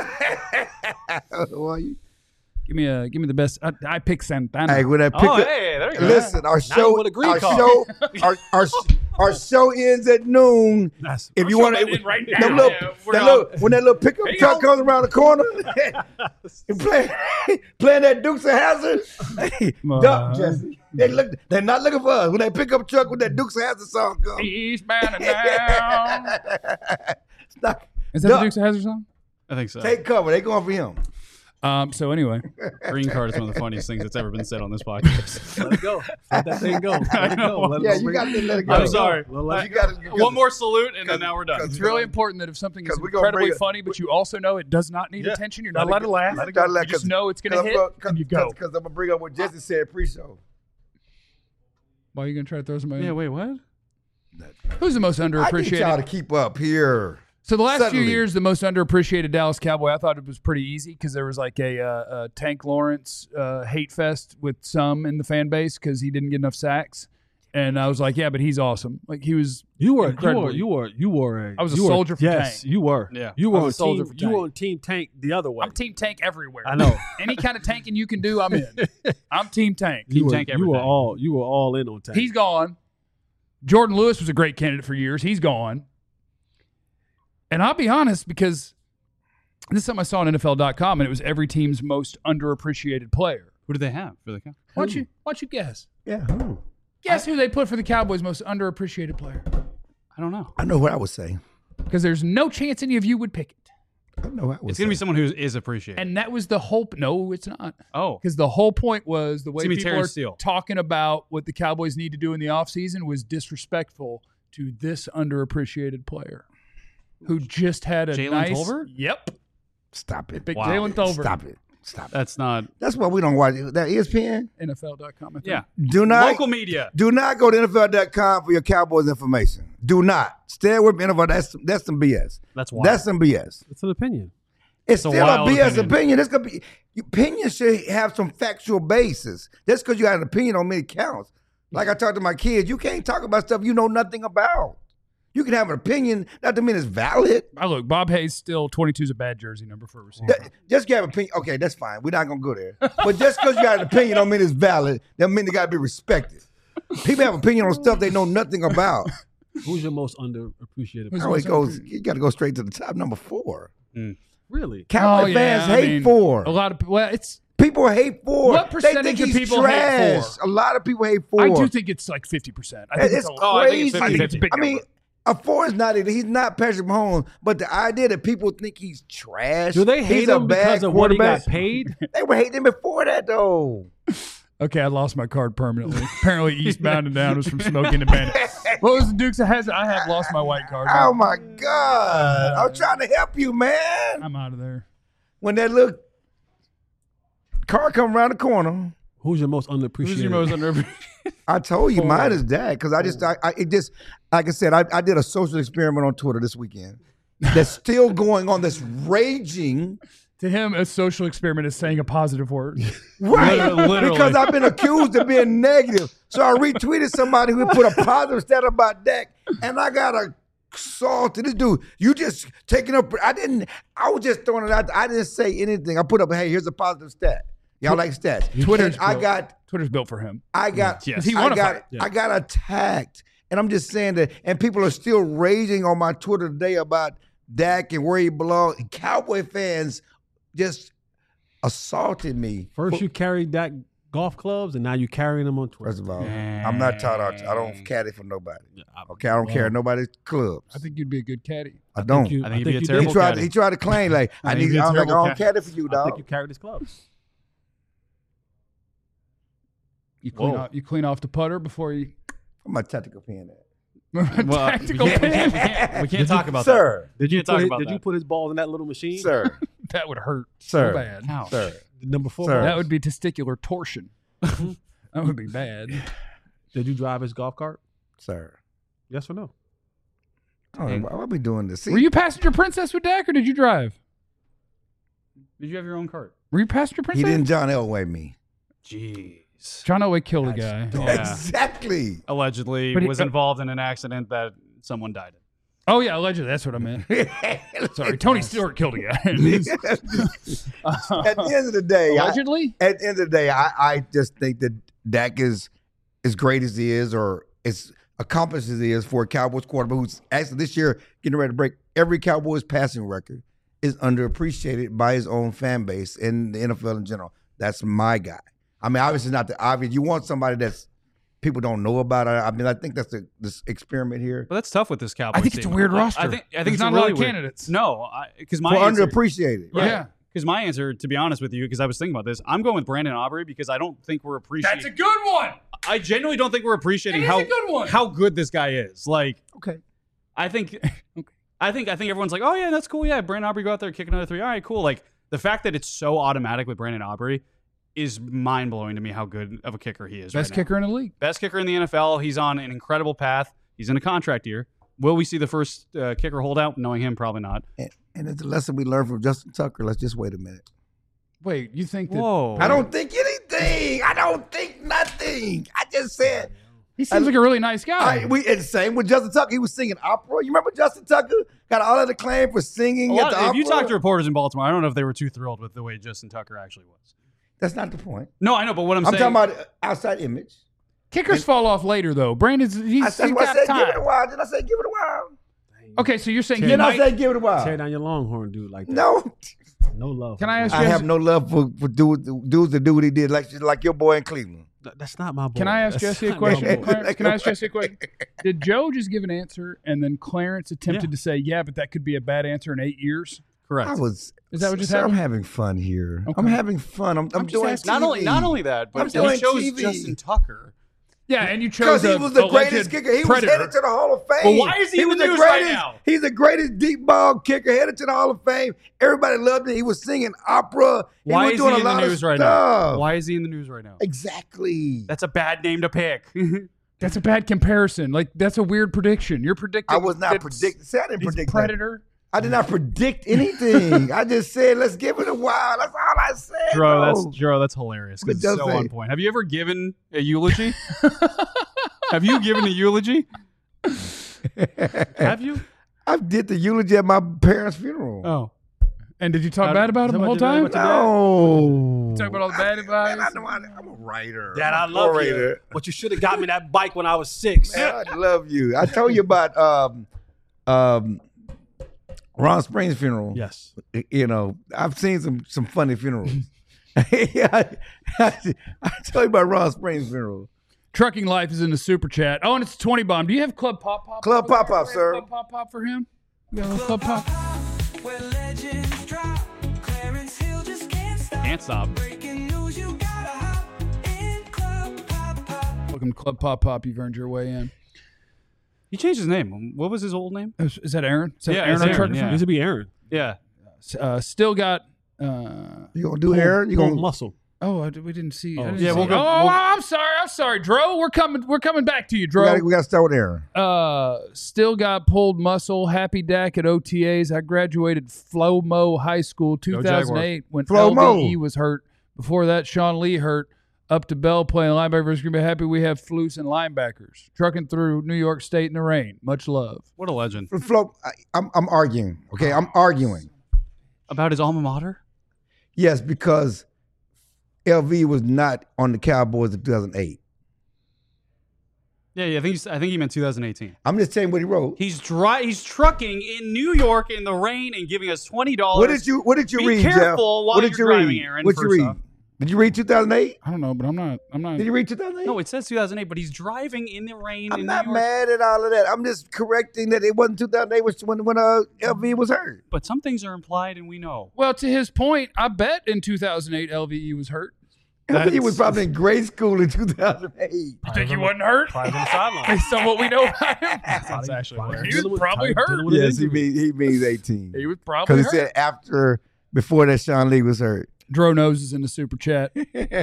S4: Well, you-
S1: Give me a, give me the best. I, I pick Santana.
S4: Hey, when I pick
S3: Oh,
S4: up,
S3: hey, there you go.
S4: listen, our
S2: you
S4: show,
S2: with a green
S4: our
S2: card.
S4: show, our, our our show ends at noon.
S2: That's
S4: If you
S1: show
S4: want
S1: that
S4: to,
S1: in right
S4: that
S1: now.
S4: little,
S1: Yeah, we're
S4: that
S1: all-
S4: little, when that little pickup
S1: Here you
S4: truck
S1: go.
S4: comes around the corner, and play, playing that Dukes of Hazzard, hey,
S1: Uh,
S4: duck, Jesse. They look, they're not looking for us. When that pickup truck with that Dukes of Hazzard song comes,
S1: Eastbound and down.
S4: Stop.
S1: Is that
S4: Duck.
S1: the Dukes of Hazzard song?
S3: I think so.
S4: Take cover. They going for him.
S1: Um. So anyway,
S3: Green card is one of the funniest things that's ever been said on this podcast.
S2: Let it go. Let that thing go. Let it go. Let it
S4: Yeah,
S2: go.
S4: you got to let it go.
S3: I'm sorry.
S2: Let
S4: You
S2: it
S4: got to
S3: One more salute, and then now we're done.
S1: it's really important that if something is
S4: 'Cause we gonna
S1: incredibly
S4: bring it-
S1: funny, but you also know it does not need
S2: Yeah.
S1: attention, you're not
S2: Let
S1: allowed
S2: it
S1: to
S2: go.
S1: laugh.
S4: Let it go. Let-
S1: You just
S4: 'cause-
S1: know it's going to hit, and you go.
S4: Because I'm gonna bring up what Jesse said pre-show.
S1: Why are you going to try to throw somebody?
S3: Yeah,
S1: in?
S3: wait, what?
S1: Who's the most
S4: I need
S1: underappreciated?
S4: y'all to keep up here.
S1: So the last
S4: Suddenly.
S1: few years, the most underappreciated Dallas Cowboy, I thought it was pretty easy because there was like a, uh, a Tank Lawrence uh, hate fest with some in the fan base because he didn't get enough sacks, and I was like, yeah, but he's awesome. Like he was.
S2: You were, you
S1: Incredible.
S2: were, you were, you were. A,
S1: I was a
S2: you were-
S1: soldier for
S2: yes,
S1: Tank.
S2: you were.
S3: Yeah.
S2: you
S1: I
S2: were
S1: was
S2: on
S1: a soldier
S2: team.
S1: for
S2: You were
S1: Tank.
S2: on Team Tank the other way.
S1: I'm Team Tank everywhere.
S2: I know.
S1: Any kind of tanking you can do, I'm in. I'm Team Tank.
S2: You were,
S3: Tank
S2: you were
S3: everything.
S2: all, you were all in on Tank.
S1: He's gone. Jordan Lewis was a great candidate for years. He's gone. And I'll be honest, because this is something I saw on N F L dot com, and it was every team's most underappreciated player.
S3: Who do they have for the count?
S1: Why don't you, why don't you guess?
S4: Yeah. who?
S1: Guess who they put for the Cowboys' most underappreciated player?
S3: I don't know.
S4: I know what I would say.
S1: Because there's no chance any of you would pick it.
S4: I know what I would
S3: It's
S4: say.
S3: going to be someone who is appreciated.
S1: And that was the whole. No, it's not.
S3: oh,
S1: Because the whole point was the way
S3: It's gonna be
S1: people
S3: Terrence
S1: are
S3: Steele.
S1: talking about what the Cowboys need to do in the offseason was disrespectful to this underappreciated player who just had a
S3: Jalen
S1: nice.
S3: Tolbert?
S1: Yep.
S4: Stop it.
S1: Big
S3: Wow.
S1: Jalen Tolbert.
S4: Stop it. Stop it.
S3: that's not.
S4: That's why we don't watch it. That E S P N.
S1: N F L dot com. I think.
S3: Yeah.
S4: Do not
S3: Local media.
S4: do not go to N F L dot com for your Cowboys information. Do not. Stay away from N F L. That's that's some B S.
S3: That's wild.
S4: That's some B S.
S2: It's an opinion.
S4: It's
S3: a
S4: still a
S3: wild
S4: B S
S3: opinion.
S4: opinion. It's gonna be opinion should have some factual basis. Just because you got an opinion on many counts. Like I talk to my kids, you can't talk about stuff you know nothing about. You can have an opinion, not to mean it's valid.
S1: I look, Bob Hayes still twenty-two is a bad jersey number for a receiver.
S4: That- just you have an opinion. Okay, that's fine. We're not gonna go there. But just because you got an opinion don't mean it's valid. That mean they gotta be respected. People have opinion on stuff they know nothing about.
S2: Who's your most underappreciated?
S4: I
S2: player?
S4: always goes, you gotta go straight to the top. Number four.
S2: Really?
S4: Cowboy
S1: Oh, yeah,
S4: fans
S1: I
S4: hate
S1: mean,
S4: Ford.
S1: A lot of well, it's.
S4: People hate Ford.
S1: What percentage
S4: they think
S1: of
S4: he's
S1: people hate
S4: trash.
S1: Ford?
S4: A lot of people hate Ford.
S1: I do think it's like fifty percent. I think
S4: it's
S1: it's, a,
S4: crazy.
S3: Oh, I think it's
S1: I think it's a big
S4: I mean,
S1: number.
S4: a Ford is not. He's not Patrick Mahomes, but the idea that people think he's trash.
S2: Do they hate
S4: he's a
S2: him
S4: bad
S2: because of what he got
S4: quarterback.
S2: paid?
S4: They were hating him before that, though.
S1: Okay, I lost my card permanently. Apparently, Eastbound and Down was from Smoking the Bandit. What was the Dukes of Hazzard? I have lost my white card.
S4: Oh my God! I'm trying to help you, man.
S1: I'm out of there.
S4: When that little car come around the corner,
S2: Who's your most underappreciated?
S1: Who's your most under?
S4: I told you
S1: Ford.
S4: mine is that because I just, I, I, it just, like I said, I, I did a social experiment on Twitter this weekend that's still going on. That's raging.
S1: To him, a social experiment is saying a positive word.
S4: Right.
S3: Literally- literally.
S4: Because I've been accused of being negative. So I retweeted somebody who put a positive stat about Dak, and I got a salt to this dude. You just taking up. I didn't. I was just throwing it out. I didn't say anything. I put up, hey, here's a positive stat. Y'all like stats.
S1: Twitter's
S4: And I
S1: built.
S4: got.
S1: Twitter's built for him.
S4: I got.
S1: Yes. He
S4: I
S1: won a
S4: got.
S1: fight.
S2: Yeah.
S4: I got attacked, and I'm just saying that. And people are still raging on my Twitter today about Dak and where he belongs. Cowboy fans just assaulted me.
S2: First, you carried that golf clubs, and now you carrying them on Twitter.
S4: First of all, I'm not taught out. I don't caddy for nobody.
S2: Yeah, I-
S4: Okay, I don't
S2: well,
S4: carry nobody's clubs.
S1: I think you'd be a good caddy.
S4: I don't.
S2: you-
S3: I think he'd be a
S2: you
S3: terrible
S4: he tried.
S3: caddy.
S4: He tried to claim like I,
S3: I think
S4: need.
S3: he'd be a
S4: I'm like I
S3: terrible
S4: don't caddy for you,
S2: I think
S4: dog.
S2: you carried his clubs.
S1: You clean
S3: Whoa.
S1: off. You clean off the putter before you.
S4: I'm a tactical pen. At.
S3: Well,
S1: Tactical
S3: we can't, we
S1: pin.
S3: can't, we can't, we can't talk about
S4: Sir,
S2: Did you
S3: Can't
S2: put
S3: talk
S2: his,
S3: about
S2: Did
S3: that.
S2: you put his balls in that little machine?
S4: sir,
S1: That would hurt
S4: Sir.
S1: so bad.
S3: that. Ouch.
S4: sir.
S2: Number four.
S4: Sir.
S2: balls.
S1: That would be testicular torsion. That would be bad.
S2: Did you drive his golf cart?
S4: Sir.
S2: Yes or no?
S4: I don't know, why are we doing this? See,
S1: Were you passenger princess with Dak, or did you drive?
S3: Did you have your own cart?
S1: Were you passenger
S4: he
S1: princess?
S4: didn't John Elway me.
S3: Jeez.
S1: John Elway killed a guy.
S3: Yeah.
S4: Exactly.
S3: Allegedly
S1: But he-
S3: was involved in an accident that someone died in.
S1: Oh yeah, allegedly. That's what I meant. Sorry, Tony Stewart killed a guy.
S4: At the end of the day, I,
S1: Allegedly.
S4: at the end of the day, I, I just think that Dak is as great as he is, or as accomplished as he is for a Cowboys quarterback who's actually this year getting ready to break every Cowboys passing record, is underappreciated by his own fan base and the N F L in general. That's my guy. I mean, obviously not the obvious. You want somebody that's people don't know about. I, I mean, I think that's the this experiment here.
S3: But that's tough with this Cowboys
S1: I think it's a
S3: team.
S1: weird
S3: I-
S1: roster.
S3: I think I
S1: There's
S3: think it's
S1: not a
S3: really
S1: lot of
S3: weird.
S1: candidates.
S3: No, because
S4: For
S3: my answer,
S4: underappreciated.
S1: Yeah.
S3: right. Because my answer, to be honest with you, because I was thinking about this, I'm going with Brandon Aubrey because I don't think we're appreciating.
S1: That's a good one.
S3: I genuinely don't think we're appreciating
S1: It is
S3: how
S1: a good one.
S3: how good this guy is. Like,
S4: Okay.
S3: I think, I think, I think everyone's like, oh yeah, that's cool. Yeah, Brandon Aubrey go out there, kick another three. All right, cool. Like the fact that it's so automatic with Brandon Aubrey is mind blowing to me. How good of a kicker he is.
S1: Best
S3: right now.
S1: kicker in the league.
S3: Best kicker in the N F L. He's on an incredible path. He's in a contract year. Will we see the first uh, kicker holdout? Knowing him, probably not.
S4: And, and it's a lesson we learned from Justin Tucker. Let's just wait a minute.
S1: Wait, you think that
S3: Whoa.
S4: I don't think anything. I don't think nothing. I just said.
S1: he seems like a really nice guy?
S4: I, we and same with Justin Tucker. He was singing opera. You remember Justin Tucker got all of the claim for singing
S3: A
S4: at
S3: lot-
S4: the
S3: if
S4: opera?
S3: you talk to reporters in Baltimore, I don't know if they were too thrilled with the way Justin Tucker actually was.
S4: That's not the point.
S3: No, I know, but what I'm,
S4: I'm,
S3: saying,
S4: talking about outside image.
S1: Kickers fall off later though. Brandon's he's,
S4: I,
S1: he's
S4: that's why I
S1: got
S4: said give it a
S1: time.
S4: while. Did I say give it a while?
S1: Okay, so you're saying he
S4: Did I
S1: might.
S4: say give it a
S2: Tear
S4: while?
S2: down your Longhorn dude like that.
S4: No.
S2: No love.
S1: Can I ask
S4: I
S1: you?
S4: have no love for, for dudes, dudes that do what he did, like like your boy in Cleveland.
S2: Th- That's not my boy.
S1: Can I ask
S2: That's
S1: Jesse a
S2: not my
S1: question?
S2: boy.
S1: Clarence, can I ask Jesse a question? Did Joe just give an answer and then Clarence attempted
S2: Yeah.
S1: to say, "Yeah, but that could be a bad answer in eight years"?
S3: correct.
S4: I was.
S1: Is that what just
S4: sir, I'm
S1: happened?
S4: having fun here.
S1: Okay.
S4: I'm having fun. I'm, I'm,
S1: I'm just
S4: doing
S1: asking.
S3: not
S4: T V.
S3: only not only that,
S4: I'm
S3: but
S4: doing
S3: he chose
S4: T V.
S3: Justin Tucker.
S1: Yeah, and you
S4: Because
S1: chose
S4: he
S1: a
S4: was the
S1: alleged
S4: greatest kicker. He
S1: predator.
S4: was headed to the Hall of Fame.
S3: Well, why is he in
S4: was
S3: the news right
S4: greatest,
S3: now?
S4: He's the greatest deep ball kicker headed to the Hall of Fame. Everybody loved him. He was singing opera. He
S3: Why
S4: was
S3: is
S4: doing
S3: he
S4: a
S3: in the
S4: lot of
S3: news right
S4: stuff.
S3: now? Why is he in the news right now?
S4: Exactly.
S3: That's a bad name to pick.
S1: That's a bad comparison. Like that's a weird prediction. You're predicting.
S4: I was not
S1: that
S4: predicting. See, I didn't
S1: he's a
S4: predict that.
S1: predator.
S4: I did not predict anything. I just said, let's give it a while. That's all I said.
S3: Dro,
S4: bro.
S3: that's Dro, that's hilarious. 'Cause
S4: But
S3: It's
S4: don't
S3: so
S4: say-
S3: on point. Have you ever given a eulogy? Have you given a eulogy?
S2: Have you?
S4: I did the eulogy at my parents' funeral.
S3: Oh.
S1: And did you talk
S2: Uh,
S1: bad about him the
S2: talk
S1: whole
S2: about your
S1: time?
S2: dad,
S4: No.
S1: Talk about all the bad advice.
S4: Man, I know I, I'm a writer.
S2: Dad, I
S4: I'm a
S2: love
S4: orator.
S2: you. But you should have got me that bike when I was six.
S4: Man, I love you. I told you about um, um, Ron Springs' funeral.
S2: Yes.
S4: You know, I've seen some some funny funerals. yeah, I, I, I told you about Ron Springs' funeral.
S1: Trucking Life is in the super chat. Oh, and it's twenty bomb. Do you have Club Pop Pop?
S4: Club
S1: over there?
S4: Pop Pop,
S1: Do you have
S4: sir.
S1: Club Pop Pop for him. You got a little Club Pop.
S6: Where legends drop, Clarence Hill just can't stop.
S3: Can't stop.
S6: Breaking news, you gotta hop in Club Pop Pop.
S1: Welcome to Club Pop Pop. You've earned your way in.
S3: He changed his name. What was his old name?
S1: Is, is that Aaron? Is that
S3: Yeah,
S1: Aaron
S3: it's
S1: on
S3: Aaron,
S1: Trucker
S3: yeah.
S1: Fan?
S2: Used to be Aaron.
S3: Yeah.
S1: Uh, still got. Uh,
S4: You gonna do Aaron? You
S2: Pulled
S4: gonna
S2: muscle.
S1: oh, I, we didn't see. I
S2: Oh,
S1: didn't
S3: yeah,
S1: see
S3: we'll
S1: it.
S3: go-
S1: Oh,
S3: we'll-
S1: I'm sorry. I'm sorry, Dro. We're coming. We're coming back to you,
S4: we
S1: Dro.
S4: gotta, we gotta start with Aaron.
S1: Uh, still got pulled muscle. Happy Dak at O T As. I graduated Flo Mo High School two thousand eight when
S4: Flo Mo.
S1: L V E was hurt. Before that, Sean Lee hurt. Up to Bell playing linebacker versus Green Bay. Happy we have Flus and linebackers trucking through New York State in the rain. Much love.
S3: What a legend.
S4: Flo, I, I'm I'm arguing. Okay, I'm arguing.
S3: About his alma mater?
S4: Yes, because L V was not on the Cowboys in two thousand eight.
S3: Yeah, yeah. I think he's, I think he meant two thousand eighteen.
S4: I'm just saying what he wrote.
S3: He's dry. He's trucking in New York in the rain and giving us twenty dollars.
S4: What did you What did you
S3: Be
S4: read,
S3: careful
S4: Jeff?
S3: while
S4: What did
S3: you're
S4: you
S3: driving,
S4: read?
S3: Aaron,
S4: What did you
S3: first
S4: read?
S3: off.
S4: Did you read two thousand eight?
S1: I don't know, but I'm not. I'm not.
S4: Did you read two thousand eight?
S3: No, it says two thousand eight, but he's driving in the rain.
S4: I'm
S3: in
S4: not
S3: New York.
S4: mad at all of that. I'm just correcting that it wasn't two thousand eight was when when uh, L V was hurt.
S3: But some things are implied, and we know.
S1: Well, to his point, I bet in two thousand eight L V E was hurt.
S4: L V was probably in grade school in two thousand eight.
S1: You think he wasn't hurt?
S2: Probably on the sideline.
S1: Based on what we know about him,
S3: That's actually hilarious.
S1: he was probably hurt.
S2: With an
S4: Yes, he
S2: injury.
S4: means he means eighteen.
S1: He was probably
S4: Because he
S1: hurt.
S4: said after before that Sean Lee was hurt.
S1: Dro Nose is in the super chat.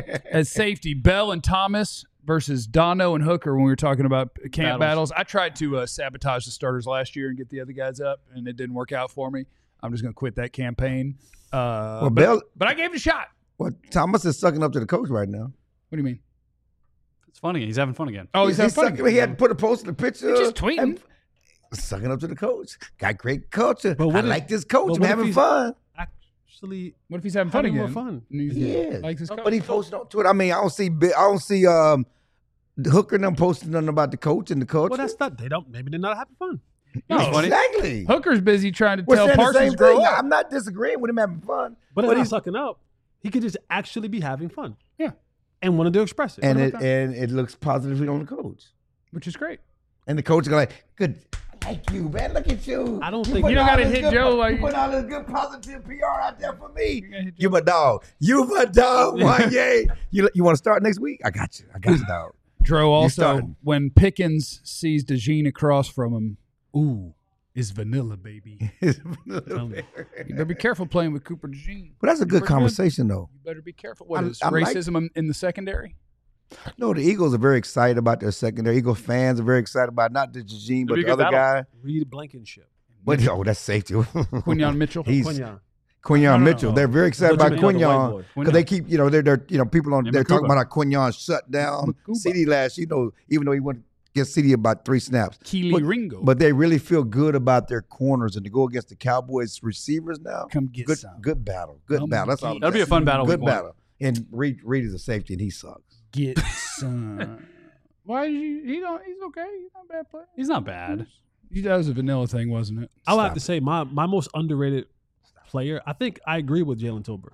S1: As safety, Bell and Thomas versus Dono and Hooker when we were talking about camp battles.
S3: Battles.
S1: I tried to uh, sabotage the starters last year and get the other guys up, and it didn't work out for me. I'm just going to quit that campaign. Uh,
S4: Well,
S1: but,
S4: Bell,
S1: but I gave it a shot.
S4: well, Thomas is sucking up to the coach right now.
S1: What do you mean?
S3: It's funny. He's having fun again.
S1: Oh, he's, having fun
S4: sucking,
S1: again.
S4: he had to put a post in the picture.
S1: He's just tweeting.
S4: and sucking up to the coach. Got great culture.
S2: But what
S4: I
S2: if-
S4: like this coach.
S2: but
S4: I'm
S2: what if
S4: having
S2: he's-
S4: fun.
S2: Actually,
S1: What if he's having fun
S2: having
S1: again?
S2: more fun.
S1: And he's-
S4: Yeah.
S1: likes his coach.
S4: But he posted on Twitter. I mean, I don't see Bi- I don't see um the Hooker and them posting nothing about the coach and the culture.
S2: well, that's not. They don't. Maybe they're not having fun.
S1: No,
S4: exactly.
S1: Hooker's busy trying to
S4: We're
S1: tell
S4: saying the
S1: Parsons
S4: same
S1: grow
S4: thing.
S1: up.
S4: I'm not disagreeing with him having fun,
S2: But it's
S4: but
S2: not
S4: he's
S2: sucking up. He could just actually be having fun.
S1: Yeah.
S2: And wanted to express it.
S4: and
S2: What
S4: it
S2: about that?
S4: and it looks positively on the coach.
S1: Which is great.
S4: And the coach is like, good. Thank you, man. Look at you.
S2: I don't
S4: You
S2: think-
S4: put
S1: You don't
S4: all
S1: gotta
S4: this
S1: hit
S4: good-
S1: Joe while
S4: You
S1: you-
S4: put all this good positive P R out there for me.
S1: gotta hit
S4: You my dog. You my dog. Wanye. You you want to start next week? I got you. I got you, dog.
S1: Dro also,
S4: starting.
S1: when Pickens sees DeJean across from him, ooh, is vanilla, baby.
S2: Tell me.
S1: You better be careful playing with Cooper DeJean.
S4: But that's a good
S1: Pretty good.
S4: conversation, though.
S1: You better be careful. What
S4: I'm-
S1: is
S4: I'm like-
S1: racism in- in the secondary?
S4: No, the Eagles are very excited about their secondary. Eagles fans are very excited about not the Eugene, but
S3: It'll be
S4: the
S3: a good
S4: other guy.
S2: Reed Blankenship.
S4: But oh, that's safety.
S1: Quinyon Mitchell.
S4: He's
S2: Quinyon.
S4: Quinyon
S1: No, no, no.
S4: Mitchell. They're very excited
S2: Thought
S4: about
S2: you meant the other
S4: Quinyon
S2: white boy.
S4: because they keep, you know, they're, they're you know, people on
S3: Yeah,
S4: they're talking
S3: Makuba.
S4: about how Quinyon shut down
S1: Makuba.
S4: C D last. You know, even though he went against C D about three snaps.
S1: Keely
S4: But-
S1: Ringo.
S4: But they really feel good about their corners and to go against the Cowboys receivers now.
S1: Come get
S4: good,
S1: some.
S4: good battle. Good
S1: Come
S4: battle. That's all.
S1: get
S3: That'll be a fun battle.
S4: Good
S3: week one.
S4: battle. And Reed, Reed is a safety, and he sucks.
S1: Get some. Why did you? He don't. He's okay. He's not a bad player.
S3: He's not bad.
S1: He that was a vanilla thing, wasn't it?
S2: I would have
S4: Stop
S2: to
S4: it.
S2: say my my most underrated player. I think I agree with Jalen Tolbert.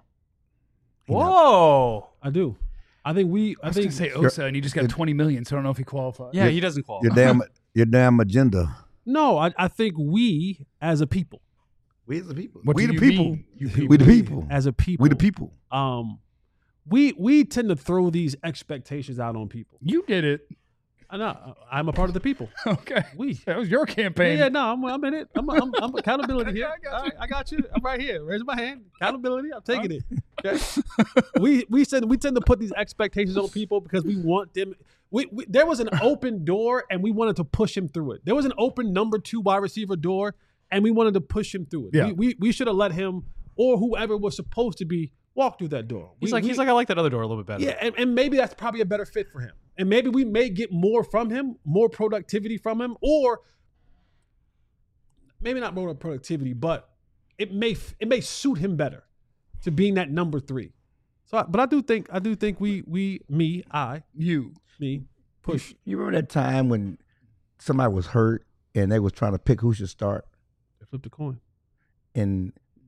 S3: Whoa.
S2: I do. I think we.
S1: I
S2: I
S1: was
S2: think
S1: gonna say Osa, and he just got twenty million, so I don't know if he qualifies.
S3: Yeah, he doesn't qualify.
S4: Your damn, your damn agenda.
S2: no. I, I think we as a people,
S4: We the people.
S1: What
S4: we
S1: do
S4: the
S1: you
S4: people.
S1: mean, you people?
S4: We the people.
S2: as a people,
S4: We the people.
S2: Um, we we tend to throw these expectations out on people.
S1: You did it.
S2: I know. I'm a part of the people.
S1: Okay.
S2: We.
S1: That was your
S2: Yeah,
S1: campaign.
S2: yeah, no, I'm, I'm in it. I'm, I'm, I'm accountability here.
S1: I got
S2: All
S1: you.
S2: right, I got you. I'm right here. Raise my hand. Accountability. I'm taking it. Okay. we we said we tend to put these expectations on people because we want them. We, we there was an open door and we wanted to push him through it. There was an open number two wide receiver door and we wanted to push him through it.
S1: Yeah.
S2: We we, we should have let him or whoever was supposed to be walk through that door.
S3: He's
S2: We-
S3: like,
S2: we-
S3: he's like, I like that other door a little bit better.
S2: yeah, and, and maybe that's probably a better fit for him. And maybe we may get more from him, more productivity from him, or maybe not more productivity, but it may it may suit him better to being that number three. So, I, but I do think I do think we we me I
S1: You.
S2: me push.
S4: You remember that time when somebody was hurt and they was trying to pick who should start,
S2: Flip the coin.
S4: and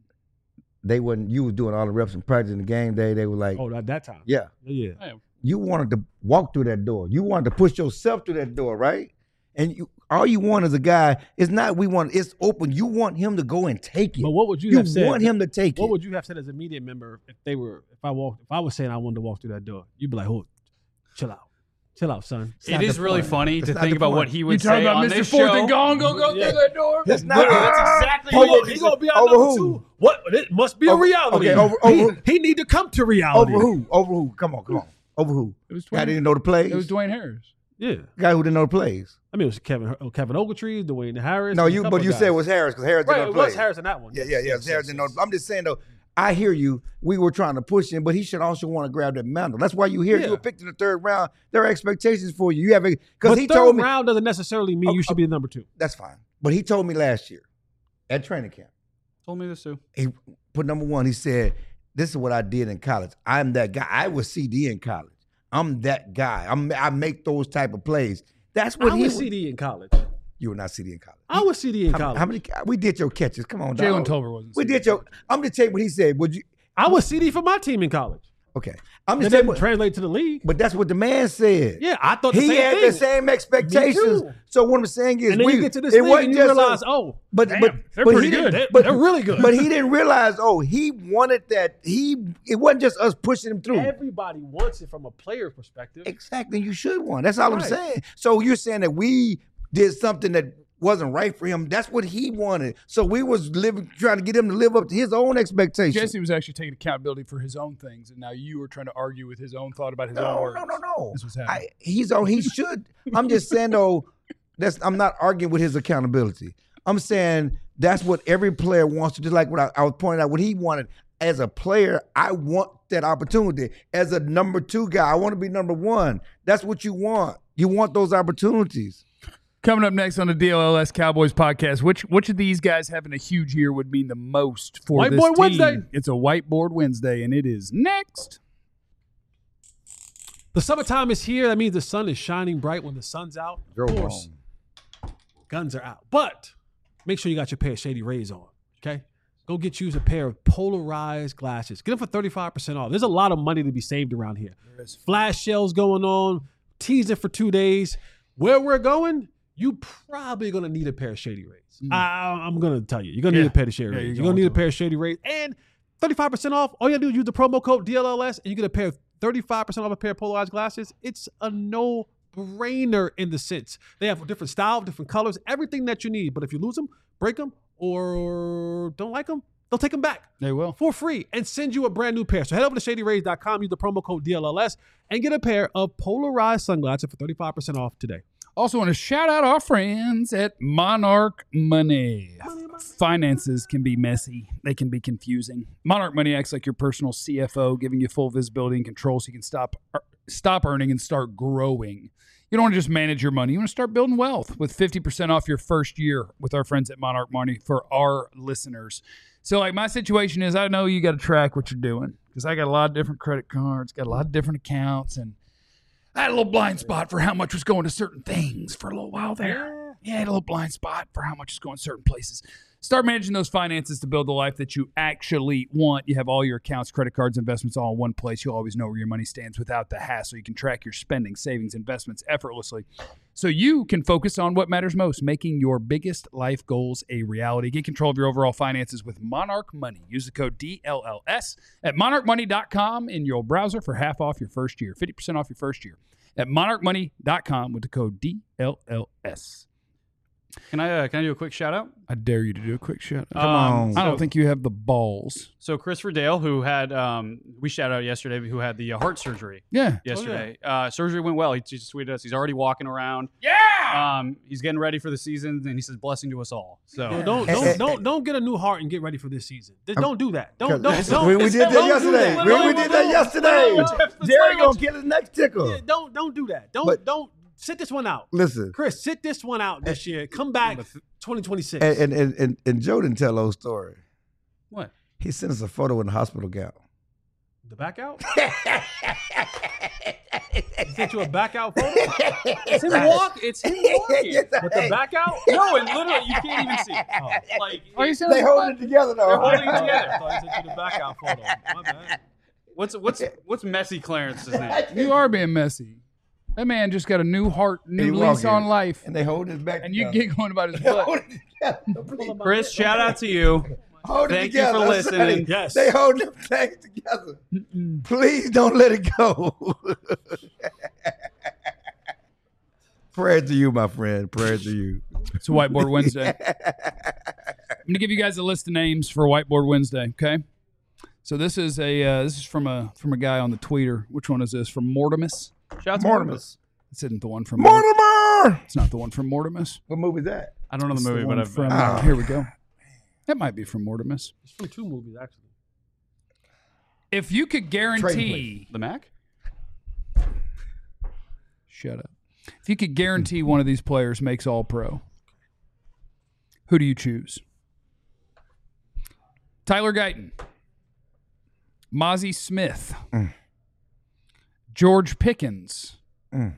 S4: they wasn't. You was doing all the reps and practice in the game day. They were like,
S2: Oh, at that time.
S4: yeah.
S2: Yeah.
S4: You wanted to walk through that door. You wanted to push yourself through that door, right? And you, all you want as a guy is not we want it's open. You want him to go and take it.
S2: But what would you,
S4: you
S2: have said?
S4: want him to take
S2: What
S4: it.
S2: would you have said as a media member if they were if I walked if I was saying I wanted to walk through that door? You'd be like, "Hold, chill out, chill out, son."
S4: It's not
S3: It is
S4: the
S3: really
S4: point.
S3: funny
S4: It's
S3: to
S4: not
S3: think
S4: the
S3: about what
S4: point.
S3: he
S1: You
S3: would
S1: talking
S3: say
S1: about
S3: on
S1: Mister
S3: this
S1: Fourth
S3: show.
S1: and Gone? Go go
S2: Yeah.
S1: through that door.
S4: That's not.
S3: Literally, that's exactly
S2: He
S3: what
S2: gonna,
S3: he
S2: he
S3: said.
S2: gonna be our
S4: Over
S2: number
S4: who?
S2: two. What? It must be a
S4: Over-
S2: reality.
S4: okay, over- over-
S2: he, he need to come to reality.
S4: Over who? Over who? Come on, come on. Over who?
S1: It was
S4: Guy
S1: Dwayne.
S4: didn't know the plays.
S1: It was Dwayne Harris.
S2: Yeah.
S4: Guy who didn't know the plays.
S2: I mean, it was Kevin oh, Kevin Ogletree, Dwayne Harris.
S4: No,
S2: and a
S4: you.
S2: couple
S4: But you
S2: guys.
S4: said it was Harris because Harris
S2: right.
S4: didn't know
S2: It
S4: the
S2: was
S4: plays.
S2: Harris in that one.
S4: Yeah, yeah, yeah. Harris didn't know. I'm just saying though. I hear you. We were trying to push him, but he should also want to grab that mantle. That's why you here.
S2: Yeah.
S4: You were picked in the third round. There are expectations for you. You have because
S2: But
S4: he
S2: third
S4: told me
S2: round doesn't necessarily mean
S4: Oh,
S2: you should
S4: oh.
S2: be the number two.
S4: that's fine. But he told me last year at training camp.
S3: Told me this too.
S4: He put number one. He said, "This is what I did in college. I'm that guy. I was C D in college. I'm that guy. I'm I make those type of plays. That's what
S2: I
S4: he
S2: was
S4: was.
S2: C D in college.
S4: You were not C D in college.
S2: I was C D in
S4: How,
S2: college.
S4: how many? We did your catches. Come on,
S1: Jalen
S4: dog.
S1: Tolbert wasn't.
S4: We
S1: C D.
S4: did your. I'm just telling you what he said. Would you?
S2: I was C D for my team in college.
S4: Okay. I'm
S2: That
S4: just saying.
S2: didn't
S4: What,
S2: translate to the league.
S4: but that's what the man said.
S2: Yeah, I thought the
S4: He
S2: same
S4: had
S2: thing.
S4: the same expectations.
S2: too.
S4: So what I'm saying is,
S2: and then
S4: we,
S2: you get to this
S4: it
S2: league
S4: wasn't
S2: and you
S4: just
S2: realize,
S4: a-
S2: oh,
S4: but
S1: Damn,
S4: but
S1: they're
S4: but
S1: pretty
S4: he didn't-
S1: good.
S2: They-
S4: but-
S2: they're really good.
S4: But he didn't realize. Oh, he wanted that. He it wasn't just us pushing him through.
S2: everybody wants it from a player perspective.
S4: Exactly. You should want. That's all I'm
S2: Right.
S4: saying. So you're saying that we did something that wasn't right for him. That's what he wanted. So we was living, trying to get him to live up to his own expectations.
S1: Jesse was actually taking accountability for his own things, and now you were trying to argue with his own thought about his own
S4: No,
S1: words.
S4: no, no, no.
S1: This was happening.
S4: I, he's on. He should. I'm just saying though. That's. I'm not arguing with his accountability. I'm saying that's what every player wants to. Just like what I, I was pointing out, what he wanted as a player. I want that opportunity as a number two guy. I want to be number one. That's what you want. You want those opportunities.
S1: Coming up next on the D L L S Cowboys podcast, which which of these guys having a huge year would mean the most for this
S2: Whiteboard
S1: team?
S2: Wednesday.
S1: It's a Whiteboard Wednesday, and it is next.
S2: The summertime is here. That means the sun is shining bright when the sun's out. Of
S4: Jerome.
S2: course, guns are out. But make sure you got your pair of Shady Rays on, okay? Go get you a pair of polarized glasses. Get them for thirty-five percent off. There's a lot of money to be saved around here. Flash sales going on, teasing for two days. Where we're going, you probably going to need a pair of Shady Rays. I, I'm going to tell you. You're going to
S1: Yeah.
S2: need a pair of Shady
S1: Yeah,
S2: Rays.
S1: you're
S2: You're going to
S1: going
S2: need a
S1: to.
S2: pair of Shady Rays. And thirty-five percent off. All you got to do is use the promo code D L L S and you get a pair of thirty-five percent off a pair of polarized glasses. It's a no-brainer in the sense. They have different style, different colors, everything that you need. But if you lose them, break them, or don't like them, they'll take them back
S1: They will.
S2: for free and send you a brand new pair. So head over to shady rays dot com, use the promo code D L L S, and get a pair of polarized sunglasses for thirty-five percent off today.
S1: Also, want to shout out our friends at Monarch Money. Finances can be messy. They can be confusing. Monarch Money acts like your personal C F O, giving you full visibility and control so you can stop stop earning and start growing. You don't want to just manage your money. You want to start building wealth with fifty percent off your first year with our friends at Monarch Money for our listeners. So, like, my situation is I know you got to track what you're doing because I got a lot of different credit cards, got a lot of different accounts, and I had a little blind spot for how much was going to certain things for a little while there. Yeah, I had a little blind spot for how much is going to certain places. Start managing those finances to build the life that you actually want. You have all your accounts, credit cards, investments all in one place. You'll always know where your money stands without the hassle. You can track your spending, savings, investments effortlessly. So you can focus on what matters most, making your biggest life goals a reality. Get control of your overall finances with Monarch Money. Use the code D L L S at monarch money dot com in your browser for half off your first year, fifty percent off your first year at monarch money dot com with the code D L L S.
S3: Can I uh, can I do a quick shout out?
S1: I dare you to do a quick shout out.
S3: Come
S4: on.
S1: I don't
S3: so-
S1: think you have the balls.
S3: So Christopher Dale, who had um, we shout out yesterday, who had the uh, heart surgery
S1: Yeah.
S3: yesterday. uh, surgery went well. He just tweeted us. He's already walking around.
S1: Yeah.
S3: Um, he's getting ready for the season, and he says, "Blessing to us all." So
S2: Yo, don't
S4: Eh,
S2: don't
S4: eh,
S2: don't don't get a new heart and get ready for this season. Just don't do that. Don't don't
S4: Because
S2: don't.
S4: we, we did that
S2: don't do
S4: yesterday.
S2: that.
S4: We, we
S2: No,
S4: did
S2: no,
S4: that
S2: no.
S4: yesterday.
S2: No, no, no.
S4: Jerry gonna get his next tickle.
S2: Yeah, don't don't do that. Don't
S4: But-
S2: don't sit this one out.
S4: Listen,
S2: Chris, sit this one out this year. Come back twenty twenty-six.
S4: and, and and and and Joe didn't tell those story.
S3: what?
S4: He sent us a photo in the hospital gown.
S2: The back out? He sent you a back out photo?
S3: It's him walk. It's him walking.
S2: With the back out?
S3: No, and literally you can't even see it. Like
S1: Oh, you said
S4: They holding it together though.
S3: They're holding it
S2: I
S3: together.
S2: thought he sent you the back out photo. My bad.
S3: What's what's what's Messy Clarence's name?
S1: You are being messy. That man just got a new heart,
S4: He
S1: new lease
S4: walking.
S1: on life,
S4: And they hold his back
S1: and you
S4: together.
S1: giggling about his
S4: They
S1: butt.
S4: hold it together. Please.
S3: Chris, shout out to you.
S4: Hold it
S3: Thank you
S4: together.
S3: for
S4: I'm
S3: listening.
S4: saying,
S2: Yes.
S4: They hold them things together. Please don't let it go. Prayer to you, my friend. Prayer to you.
S1: It's a Whiteboard Wednesday. I'm gonna give you guys a list of names for Whiteboard Wednesday. Okay. So this is a uh, this is from a from a guy on the tweeter. Which one is this? From Mortimus.
S3: Shout out to
S4: Mortimus.
S1: This isn't the one from Mort-
S4: Mortimer!
S1: It's not the one from Mortimus.
S4: What movie is that?
S3: I don't know
S1: It's
S3: the
S1: the
S3: movie,
S1: one
S3: but I've
S1: from.
S4: Ah.
S1: Uh, here we go. That might be from Mortimus.
S2: It's from two movies, actually.
S1: If you could guarantee,
S3: the Mac.
S1: shut up. If you could guarantee one of these players makes All Pro, who do you choose? Tyler Guyton, Mozzie Smith,
S4: Mm.
S1: George Pickens,
S4: Mm.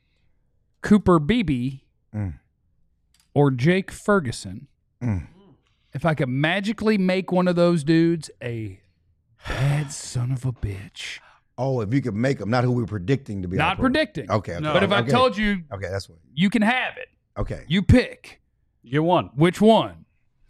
S1: Cooper Beebe,
S4: Mm.
S1: or Jake Ferguson.
S4: Mm.
S1: If I could magically make one of those dudes a bad son of a bitch.
S4: Oh, if you could make them, not who we're predicting to be.
S1: Not
S4: our pro.
S1: predicting.
S4: Okay, okay.
S3: No.
S1: But if I
S4: okay.
S1: told you
S4: Okay, that's what.
S1: you can have it,
S4: Okay.
S1: you pick
S3: You get one.
S1: which one.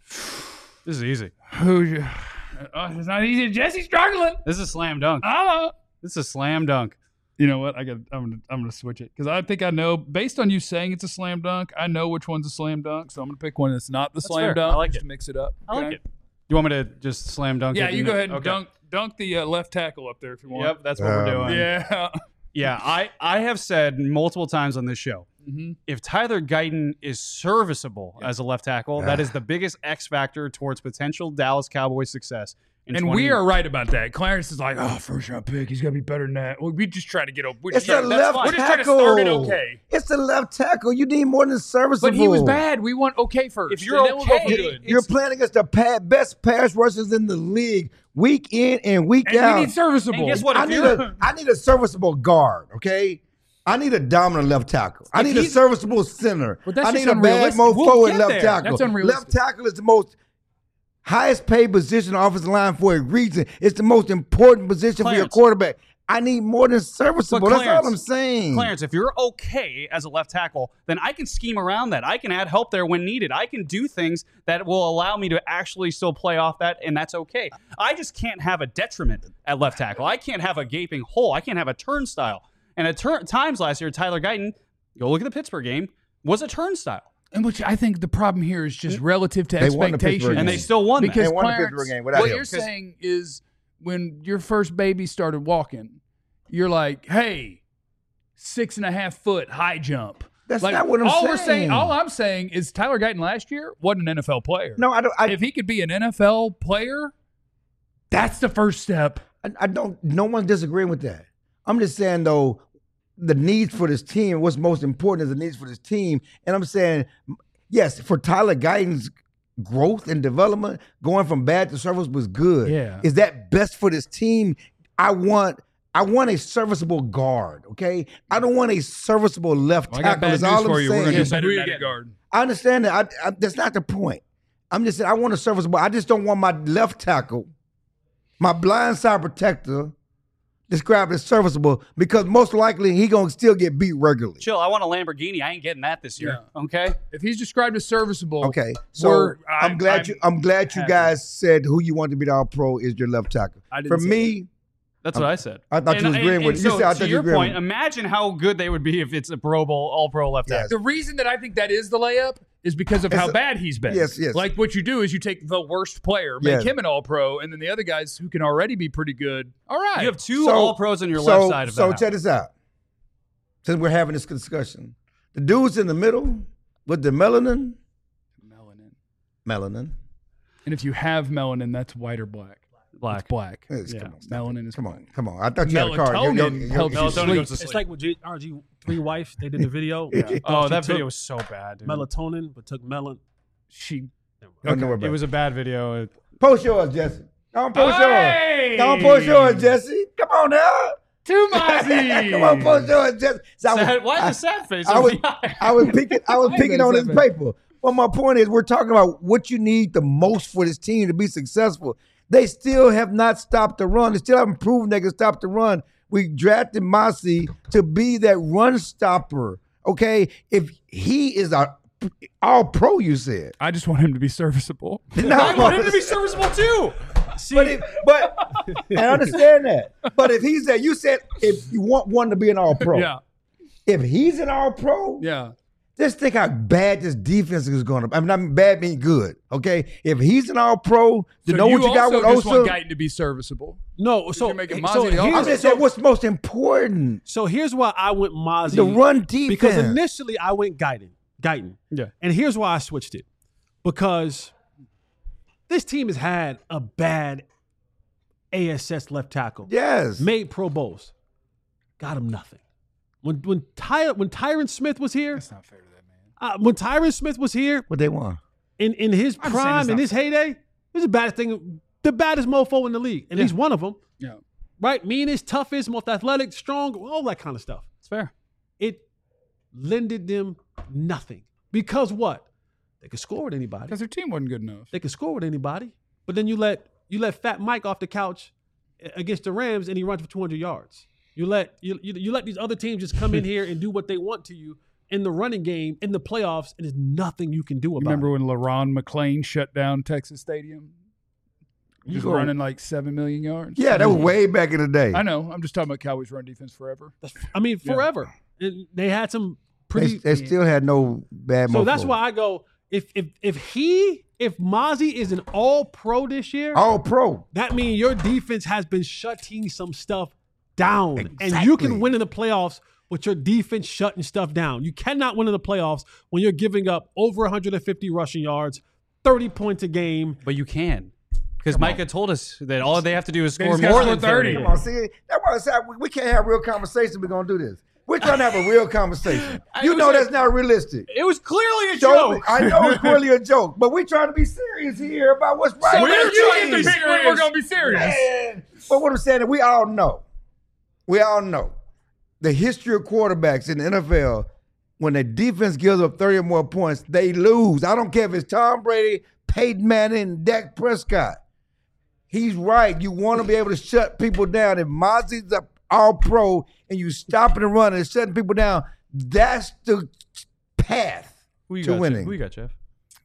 S3: This is easy.
S1: Who's you? Oh, it's not easy. Jesse's struggling.
S3: This is a slam dunk.
S1: Oh.
S3: This is a slam dunk.
S1: You know what? I got. I'm gonna. I'm gonna switch it because I think I know. Based on you saying it's a slam dunk, I know which one's a slam dunk. So I'm gonna pick one that's not the
S3: That's
S1: slam
S3: fair.
S1: dunk.
S3: I like
S1: just
S3: it.
S1: to mix it up.
S3: I like
S1: okay?
S3: it. You want me to just slam dunk?
S1: Yeah,
S3: it?
S1: you go ahead and
S3: Okay.
S1: dunk dunk the uh, left tackle up there if you want.
S3: Yep, that's what
S4: Um,
S3: we're doing.
S1: Yeah.
S3: Yeah, I, I have said multiple times on this show,
S1: hmm
S3: if Tyler Guyton is serviceable as a left tackle, that is the biggest X factor towards potential Dallas Cowboys success. In
S1: And
S3: twenty
S1: we are right about that. Clarence is like, oh, first round pick. He's gonna be better than that. Well, we just try to get over.
S4: It's a
S1: that's
S4: left
S1: fine. We're just
S4: tackle.
S1: trying to start it okay.
S4: It's a left tackle. You need more than serviceable.
S1: But he was bad. We want okay first.
S3: If you're
S1: and then we'll go for
S3: okay,
S1: good.
S4: You're playing against the pa- best pass rushers in the league, week in and week
S1: And
S4: out.
S1: we need serviceable.
S3: And guess what?
S4: I
S3: If
S4: need
S3: you're
S4: a I need a serviceable guard. Okay. I need a dominant left tackle. I
S1: If
S4: need a
S1: he's-
S4: serviceable center.
S1: But that's
S4: I
S1: just
S4: need a bad
S1: unrealistic.
S4: mofo
S1: We'll
S4: at
S1: get
S4: left
S1: there.
S4: tackle.
S1: That's unrealistic.
S4: Left tackle is the most highest paid position on the offensive line for a reason. It's the most important position for your
S3: Clarence.
S4: quarterback. I need more than serviceable.
S3: But
S4: That's all
S3: Clarence,
S4: I'm saying.
S3: Clarence, if you're okay as a left tackle, then I can scheme around that. I can add help there when needed. I can do things that will allow me to actually still play off that, and that's okay. I just can't have a detriment at left tackle. I can't have a gaping hole. I can't have a turnstile. And at tur- times last year, Tyler Guyton, go look at the Pittsburgh game, was a turnstile.
S1: And which I think the problem here is just relative to
S4: They won the
S1: expectations.
S4: Pittsburgh
S3: And
S4: game.
S3: they still won that.
S1: because
S4: They won the
S1: Clarence,
S4: Pittsburgh game without
S1: what
S4: him.
S1: you're saying is when your first baby started walking, you're like, hey, six and a half foot high jump.
S4: That's
S1: like,
S4: not what I'm
S1: all
S4: saying.
S1: we're saying. All I'm saying is Tyler Guyton last year wasn't an N F L player.
S4: No, I don't. I,
S1: if he could be an N F L player, that's the first step.
S4: I, I don't. No one's disagreeing with that. I'm just saying though, the needs for this team. What's most important is the needs for this team. And I'm saying, yes, for Tyler Guyton's growth and development, going from bad to service was good.
S1: Yeah.
S4: Is that best for this team? I want. I want a serviceable guard. Okay. I don't want a serviceable left
S1: Well, I got
S4: tackle.
S1: bad
S4: That's
S1: news
S4: all
S1: for
S4: I'm
S1: you. We're
S4: saying.
S1: going to
S3: Yeah,
S1: do
S3: so
S1: better
S3: who
S1: than
S3: you
S1: that
S3: getting?
S1: guard.
S4: I understand that. I, I, that's not the point. I'm just saying I want a serviceable. I just don't want my left tackle, my blind side protector, described as serviceable because most likely he gonna still get beat regularly.
S3: Chill, I want a Lamborghini. I ain't getting that this year. Okay?
S1: If he's described as serviceable,
S4: Okay, so
S1: we're-
S4: I'm
S1: I-
S4: glad
S1: I'm
S4: you. I'm glad you
S1: happy.
S4: guys said who you want to be the All Pro is your left tackle.
S1: I didn't
S4: For
S1: say
S4: me,
S3: That's what I said.
S4: I thought you was agreeing
S3: and,
S4: with-
S3: and
S4: you
S3: so,
S4: said I
S3: to
S4: thought you
S3: your
S4: agreeing
S3: point,
S4: with-
S3: imagine how good they would be if it's a Pro Bowl, All Pro left
S4: Yes.
S3: tackle.
S1: The reason that I think that is the layup is because of
S4: It's
S1: how
S4: a-
S1: bad he's been.
S4: Yes, yes.
S1: Like what you do is you take the worst player, make
S4: Yes.
S1: him an all-pro, and then the other guys who can already be pretty good. All right.
S3: You have two
S4: So-
S3: all pros on your
S4: so,
S3: left side of
S4: So
S3: that.
S4: check this out. Since we're having this discussion, the dudes in the middle with the melanin,
S1: Melanin.
S4: melanin.
S1: And if you have melanin, that's white or black.
S3: Black.
S1: It's black.
S4: Yes,
S1: Yeah.
S4: Come on, stop
S1: Melanin
S4: it.
S1: is
S4: come
S1: black.
S4: on, come on. I thought you had a card. Yo, yo,
S1: Melatonin
S4: yo,
S1: helps
S4: yo,
S1: you
S3: Melatonin
S1: sleep.
S3: goes to
S2: It's
S3: sleep.
S2: like with J- R G Three Wives. They did the video.
S4: Yeah.
S3: Oh,
S2: She
S3: that
S2: took
S3: video was so bad, dude.
S2: melatonin, but took melon.
S1: She.
S4: Don't know about
S3: It was a bad video. It-
S4: Post yours, Jesse. Don't post
S1: Hey!
S4: yours. Don't post yours, Jesse. Come on now.
S1: To Mozzie!
S4: Come on, post yours, Jesse. So I was-
S3: Sad- why
S4: I-
S3: the sad face?
S4: I
S3: on
S4: was,
S3: the eye?
S4: I was picking, I was
S1: Why
S4: picking
S1: is
S4: on
S1: that
S4: this
S1: bad?
S4: paper. Well, my point is, we're talking about what you need the most for this team to be successful. They still have not stopped the run. They still haven't proven they can stop the run. We drafted Mozzie to be that run stopper. Okay, if he is our all pro, you said.
S1: I just want him to be serviceable.
S4: No,
S3: I want him to be serviceable too.
S2: See,
S4: But if, but I understand that. But if he's that, you said if you want one to be an all pro.
S1: Yeah.
S4: If he's an all pro,
S1: Yeah.
S4: just think how bad this defense is going to. I mean, I mean, bad mean good. Okay, if he's an all pro, you
S1: So
S4: know what you got
S1: also
S4: with
S1: just want
S4: Osa.
S1: Guyton to be serviceable.
S2: no. So,
S1: you're making
S2: so,
S1: Mozzie the
S4: I'm
S2: here's,
S4: just
S2: so,
S4: saying what's most important.
S2: so here's why I went Mozzie.
S4: The run defense.
S2: Because initially I went Guyton. Guyton.
S3: Yeah.
S2: And here's why I switched it. Because this team has had a bad A S S left tackle.
S4: Yes.
S2: Made Pro Bowls. Got him nothing. When when Ty, when Tyron Smith was here,
S1: That's not fair to that man.
S2: uh, when Tyron Smith was here
S4: What they want.
S2: in, in his
S1: I'm saying
S2: prime,
S1: it's
S2: in
S1: not
S2: his heyday, he was the baddest thing, the baddest mofo in the league. And
S1: Yeah.
S2: he's one of them.
S1: Yeah.
S2: Right? Meanest, toughest, most athletic, strong, all that kind of stuff.
S3: It's fair.
S2: It lended them nothing. Because what? They could score with anybody.
S1: Because their team wasn't good enough.
S2: They could score with anybody. But then you let you let Fat Mike off the couch against the Rams and he runs for two hundred yards. You let you, you, you let these other teams just come in here and do what they want to you in the running game, in the playoffs, and there's nothing you can do about
S1: Remember
S2: it.
S1: when LaRon McClain shut down Texas Stadium?
S4: You
S1: Just
S4: go-
S1: running like seven million yards.
S4: Yeah, that was way back in the day.
S1: I know. I'm just talking about Cowboys run defense forever.
S2: I mean, forever. And they had some
S4: They,
S2: pretty
S4: they still had no bad.
S2: So that's
S4: mofo.
S2: why I go, if if if he if Mozzie is an all pro this year,
S4: all pro.
S2: that means your defense has been shutting some stuff down. And you
S4: Exactly.
S2: can win in the playoffs with your defense shutting stuff down. You cannot win in the playoffs when you're giving up over one hundred fifty rushing yards, thirty points a game.
S3: But you can. Because Micah told us that all they have to do is
S1: They
S3: score
S1: just gotta
S3: more
S1: score
S3: than thirty.
S4: Come on, see, that's why I said we, we can't have real conversation. We're gonna do this. We're trying to have a real conversation. You
S3: was
S4: know
S3: like-
S4: that's not realistic.
S3: It was clearly a
S4: Show me-
S3: joke.
S4: I know it's clearly a joke, but we're trying to be serious here about what's right.
S1: We're
S4: with the
S1: trying to
S4: team.
S1: be serious. We're gonna be serious.
S4: Man. But what I'm saying is we all know, we all know the history of quarterbacks in the N F L. When the defense gives up thirty or more points, they lose. I don't care if it's Tom Brady, Peyton Manning, Dak Prescott. He's right. You want to be able to shut people down. If Mozzie's a all pro and you stopping and running and shutting people down, that's the path
S3: Who you
S4: to
S3: got,
S4: winning.
S3: Jeff? Who you got, Jeff?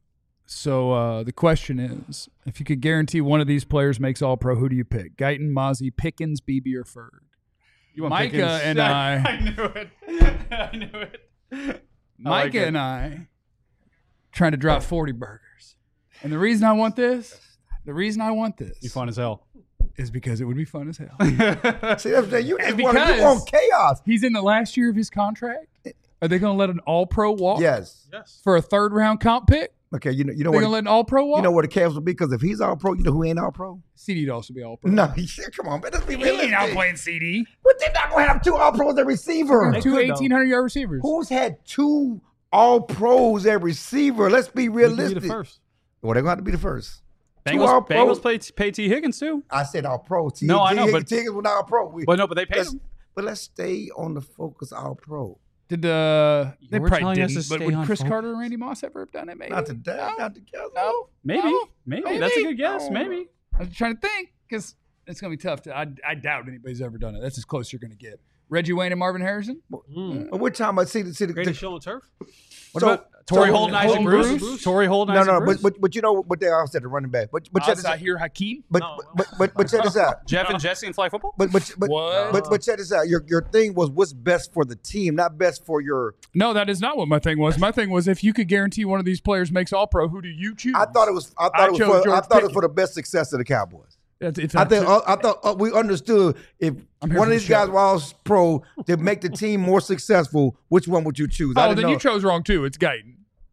S1: So uh, the question is, if you could guarantee one of these players makes All Pro, who do you pick? Guyton, Mozzie, Pickens, Beebe, or Ferd?
S3: You want
S1: Micah
S3: Pickens?
S1: and I-
S3: I knew it. I knew it. I like
S1: Micah
S3: it.
S1: and I trying to drop forty burgers. And the reason I want this, the reason I want this
S3: You fun as hell.
S1: is because it would be fun as hell.
S4: See, that's the, you just
S1: And
S4: want, you
S1: because-
S4: want chaos.
S1: He's in the last year of his contract. Are they going to let an All Pro walk
S4: Yes.
S2: Yes.
S1: for a third round comp pick?
S4: Okay. You know. You know
S1: They're
S4: what?
S1: going to let an All Pro walk?
S4: You know what the chaos will be because if he's all pro, you know who ain't all pro?
S1: C D'd also be All Pro.
S4: No. Come on, man. Let's be
S1: He ain't
S4: realistic.
S1: out playing C D.
S4: But they're not gonna have two all pros at receiver.
S2: They
S1: Two
S2: could, though.
S1: eighteen hundred yard receivers.
S4: Who's had two all pros at receiver? Let's be
S2: You can be
S4: realistic.
S2: the first.
S4: Well, they're going to have to be the first. Two all
S3: Bengals,
S4: pros.
S3: Bengals play, pay T. Higgins too.
S4: I said all pro. T-
S3: No, I know,
S4: T-
S3: but-
S4: Higgins was not all pro. We,
S3: But no, but they paid
S4: let's,
S3: him.
S4: but let's stay on the focus all pro.
S1: Did uh they
S3: You were
S1: probably
S3: telling us
S1: didn't,
S3: to
S1: but
S3: stay
S1: would
S3: on
S1: Chris
S3: focus.
S1: Carter and Randy Moss ever have done it? Maybe
S4: Not today.
S1: No,
S4: Not together.
S1: no,
S3: Maybe.
S1: no.
S3: maybe.
S1: Maybe.
S3: That's a good guess.
S4: No.
S3: Maybe.
S1: I was trying to think because it's gonna be tough. To, I I doubt anybody's ever done it. That's as close you're gonna get. Reggie Wayne and Marvin Harrison.
S2: Mm.
S4: But we're talking about see the see the.
S2: Greatest show on turf.
S3: What
S4: So-
S3: about Torrey
S4: so-
S3: Holden, Isaac
S1: Holden
S3: Bruce?
S1: Bruce?
S3: Torrey Holden,
S4: No,
S3: Isaac
S4: no,
S3: Bruce?
S4: but, but but you know what they all said the running back. But but check this out.
S1: Zahir Hakeem.
S4: But,
S2: No.
S4: but but but check this out.
S3: Jeff and Jesse in flag football?
S4: But but but,
S1: What?
S4: but but check this out. Your your thing was what's best for the team, not best for your.
S1: No, that is not what my thing was. My thing was if you could guarantee one of these players makes All Pro, who do you choose?
S4: I thought it was. I thought
S1: I
S4: it was
S1: chose
S4: for. I
S1: George
S4: thought it was
S1: Pickens.
S4: for the best success of the Cowboys.
S1: That's- if
S4: I think.
S1: cho-
S4: uh, I thought uh, we understood if
S1: I'm here
S4: one
S1: for
S4: of
S1: the
S4: these guys
S1: show.
S4: was all pro to make the team more successful. Which one would you choose? I
S1: oh,
S4: didn't
S1: then
S4: know.
S1: you chose wrong too. It's Guyton.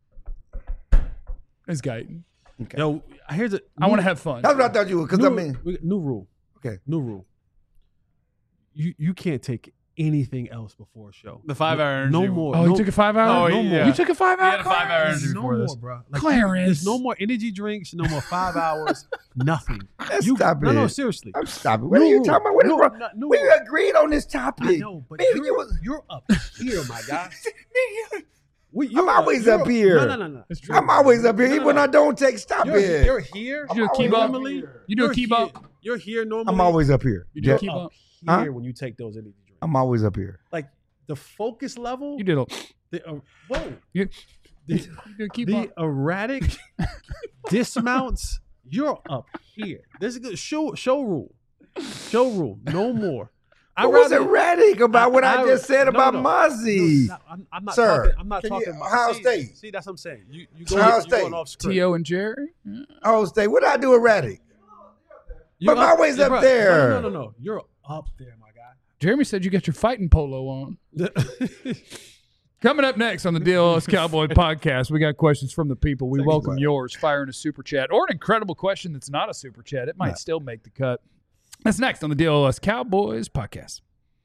S1: It's Guyton.
S2: Yo, here's a.
S1: I want to have fun.
S4: That's what I thought you would. Because
S2: new,
S4: I mean,
S2: we- new rule.
S4: Okay.
S2: New rule. You you can't take anything else before a show.
S3: The five-hour
S2: No
S3: interview.
S2: more.
S1: Oh,
S2: no,
S1: you took a five hour?
S3: Oh,
S1: no
S3: yeah.
S1: more. You took a five
S3: He
S1: hour?
S3: had a five-hour
S2: There's
S3: interview
S2: no
S3: before
S2: more,
S3: this.
S2: bro. Like,
S1: Clarence.
S2: There's no more energy drinks. No more five hours. Nothing.
S4: Let's
S2: You,
S4: stop
S2: no, no,
S4: it.
S2: seriously.
S4: I'm stopping. What are
S2: New
S4: you
S2: rule.
S4: talking about? What is
S2: No,
S4: wrong?
S2: not new
S4: We
S2: rule.
S4: agreed on this topic.
S2: I know, but
S4: Man,
S2: you're,
S4: you was-
S2: you're up here, my guy. We,
S4: I'm
S2: you're
S4: always
S2: you're
S4: up here.
S2: No, no, no, no.
S1: It's true.
S4: I'm always up here.
S2: No, no,
S4: Even when
S2: no.
S4: I don't take, stop
S2: You're,
S4: it.
S2: you're here.
S1: You do a
S4: I'm
S1: key
S4: always
S1: bump?
S4: up
S2: Normally,
S1: You do a
S2: you're
S1: key
S2: here-
S1: bump?
S2: You're here normally.
S4: I'm always up here.
S1: You do a
S4: Yeah,
S1: key
S2: up
S1: bump?
S2: here
S4: Huh?
S2: when you take those energy drinks.
S4: I'm always up here.
S2: Like the focus level.
S1: You did a,
S2: The, uh, whoa.
S1: you,
S2: The,
S1: you did a key
S2: the
S1: bump.
S2: erratic dismounts. You're up here. This is a good show. Show rule. Show rule. No more.
S4: I was erratic about what I,
S2: I-
S4: just said
S2: no,
S4: about
S2: no.
S4: Muzzy.
S2: No, I'm, I'm not
S4: Sir,
S2: talking. I'm not
S4: can you-
S2: talking about
S4: Ohio
S2: see,
S4: State.
S2: See, that's what I'm saying. You you go
S4: Ohio
S2: you
S4: State.
S2: going off script.
S1: T O and Jerry?
S4: Oh, stay. What did I do erratic?
S2: You're
S4: But my way's up
S2: bro,
S4: there.
S2: No, no, no, no. You're up there, my guy.
S1: Jeremy said you got your fighting polo on. Coming up next on the D L S Cowboy podcast, we got questions from the people. We
S4: Thank you,
S1: welcome
S4: bud.
S1: yours. Fire in a super chat or an incredible question that's not a super chat. It might
S4: No.
S1: still make the cut. That's next on the D L S Cowboys podcast.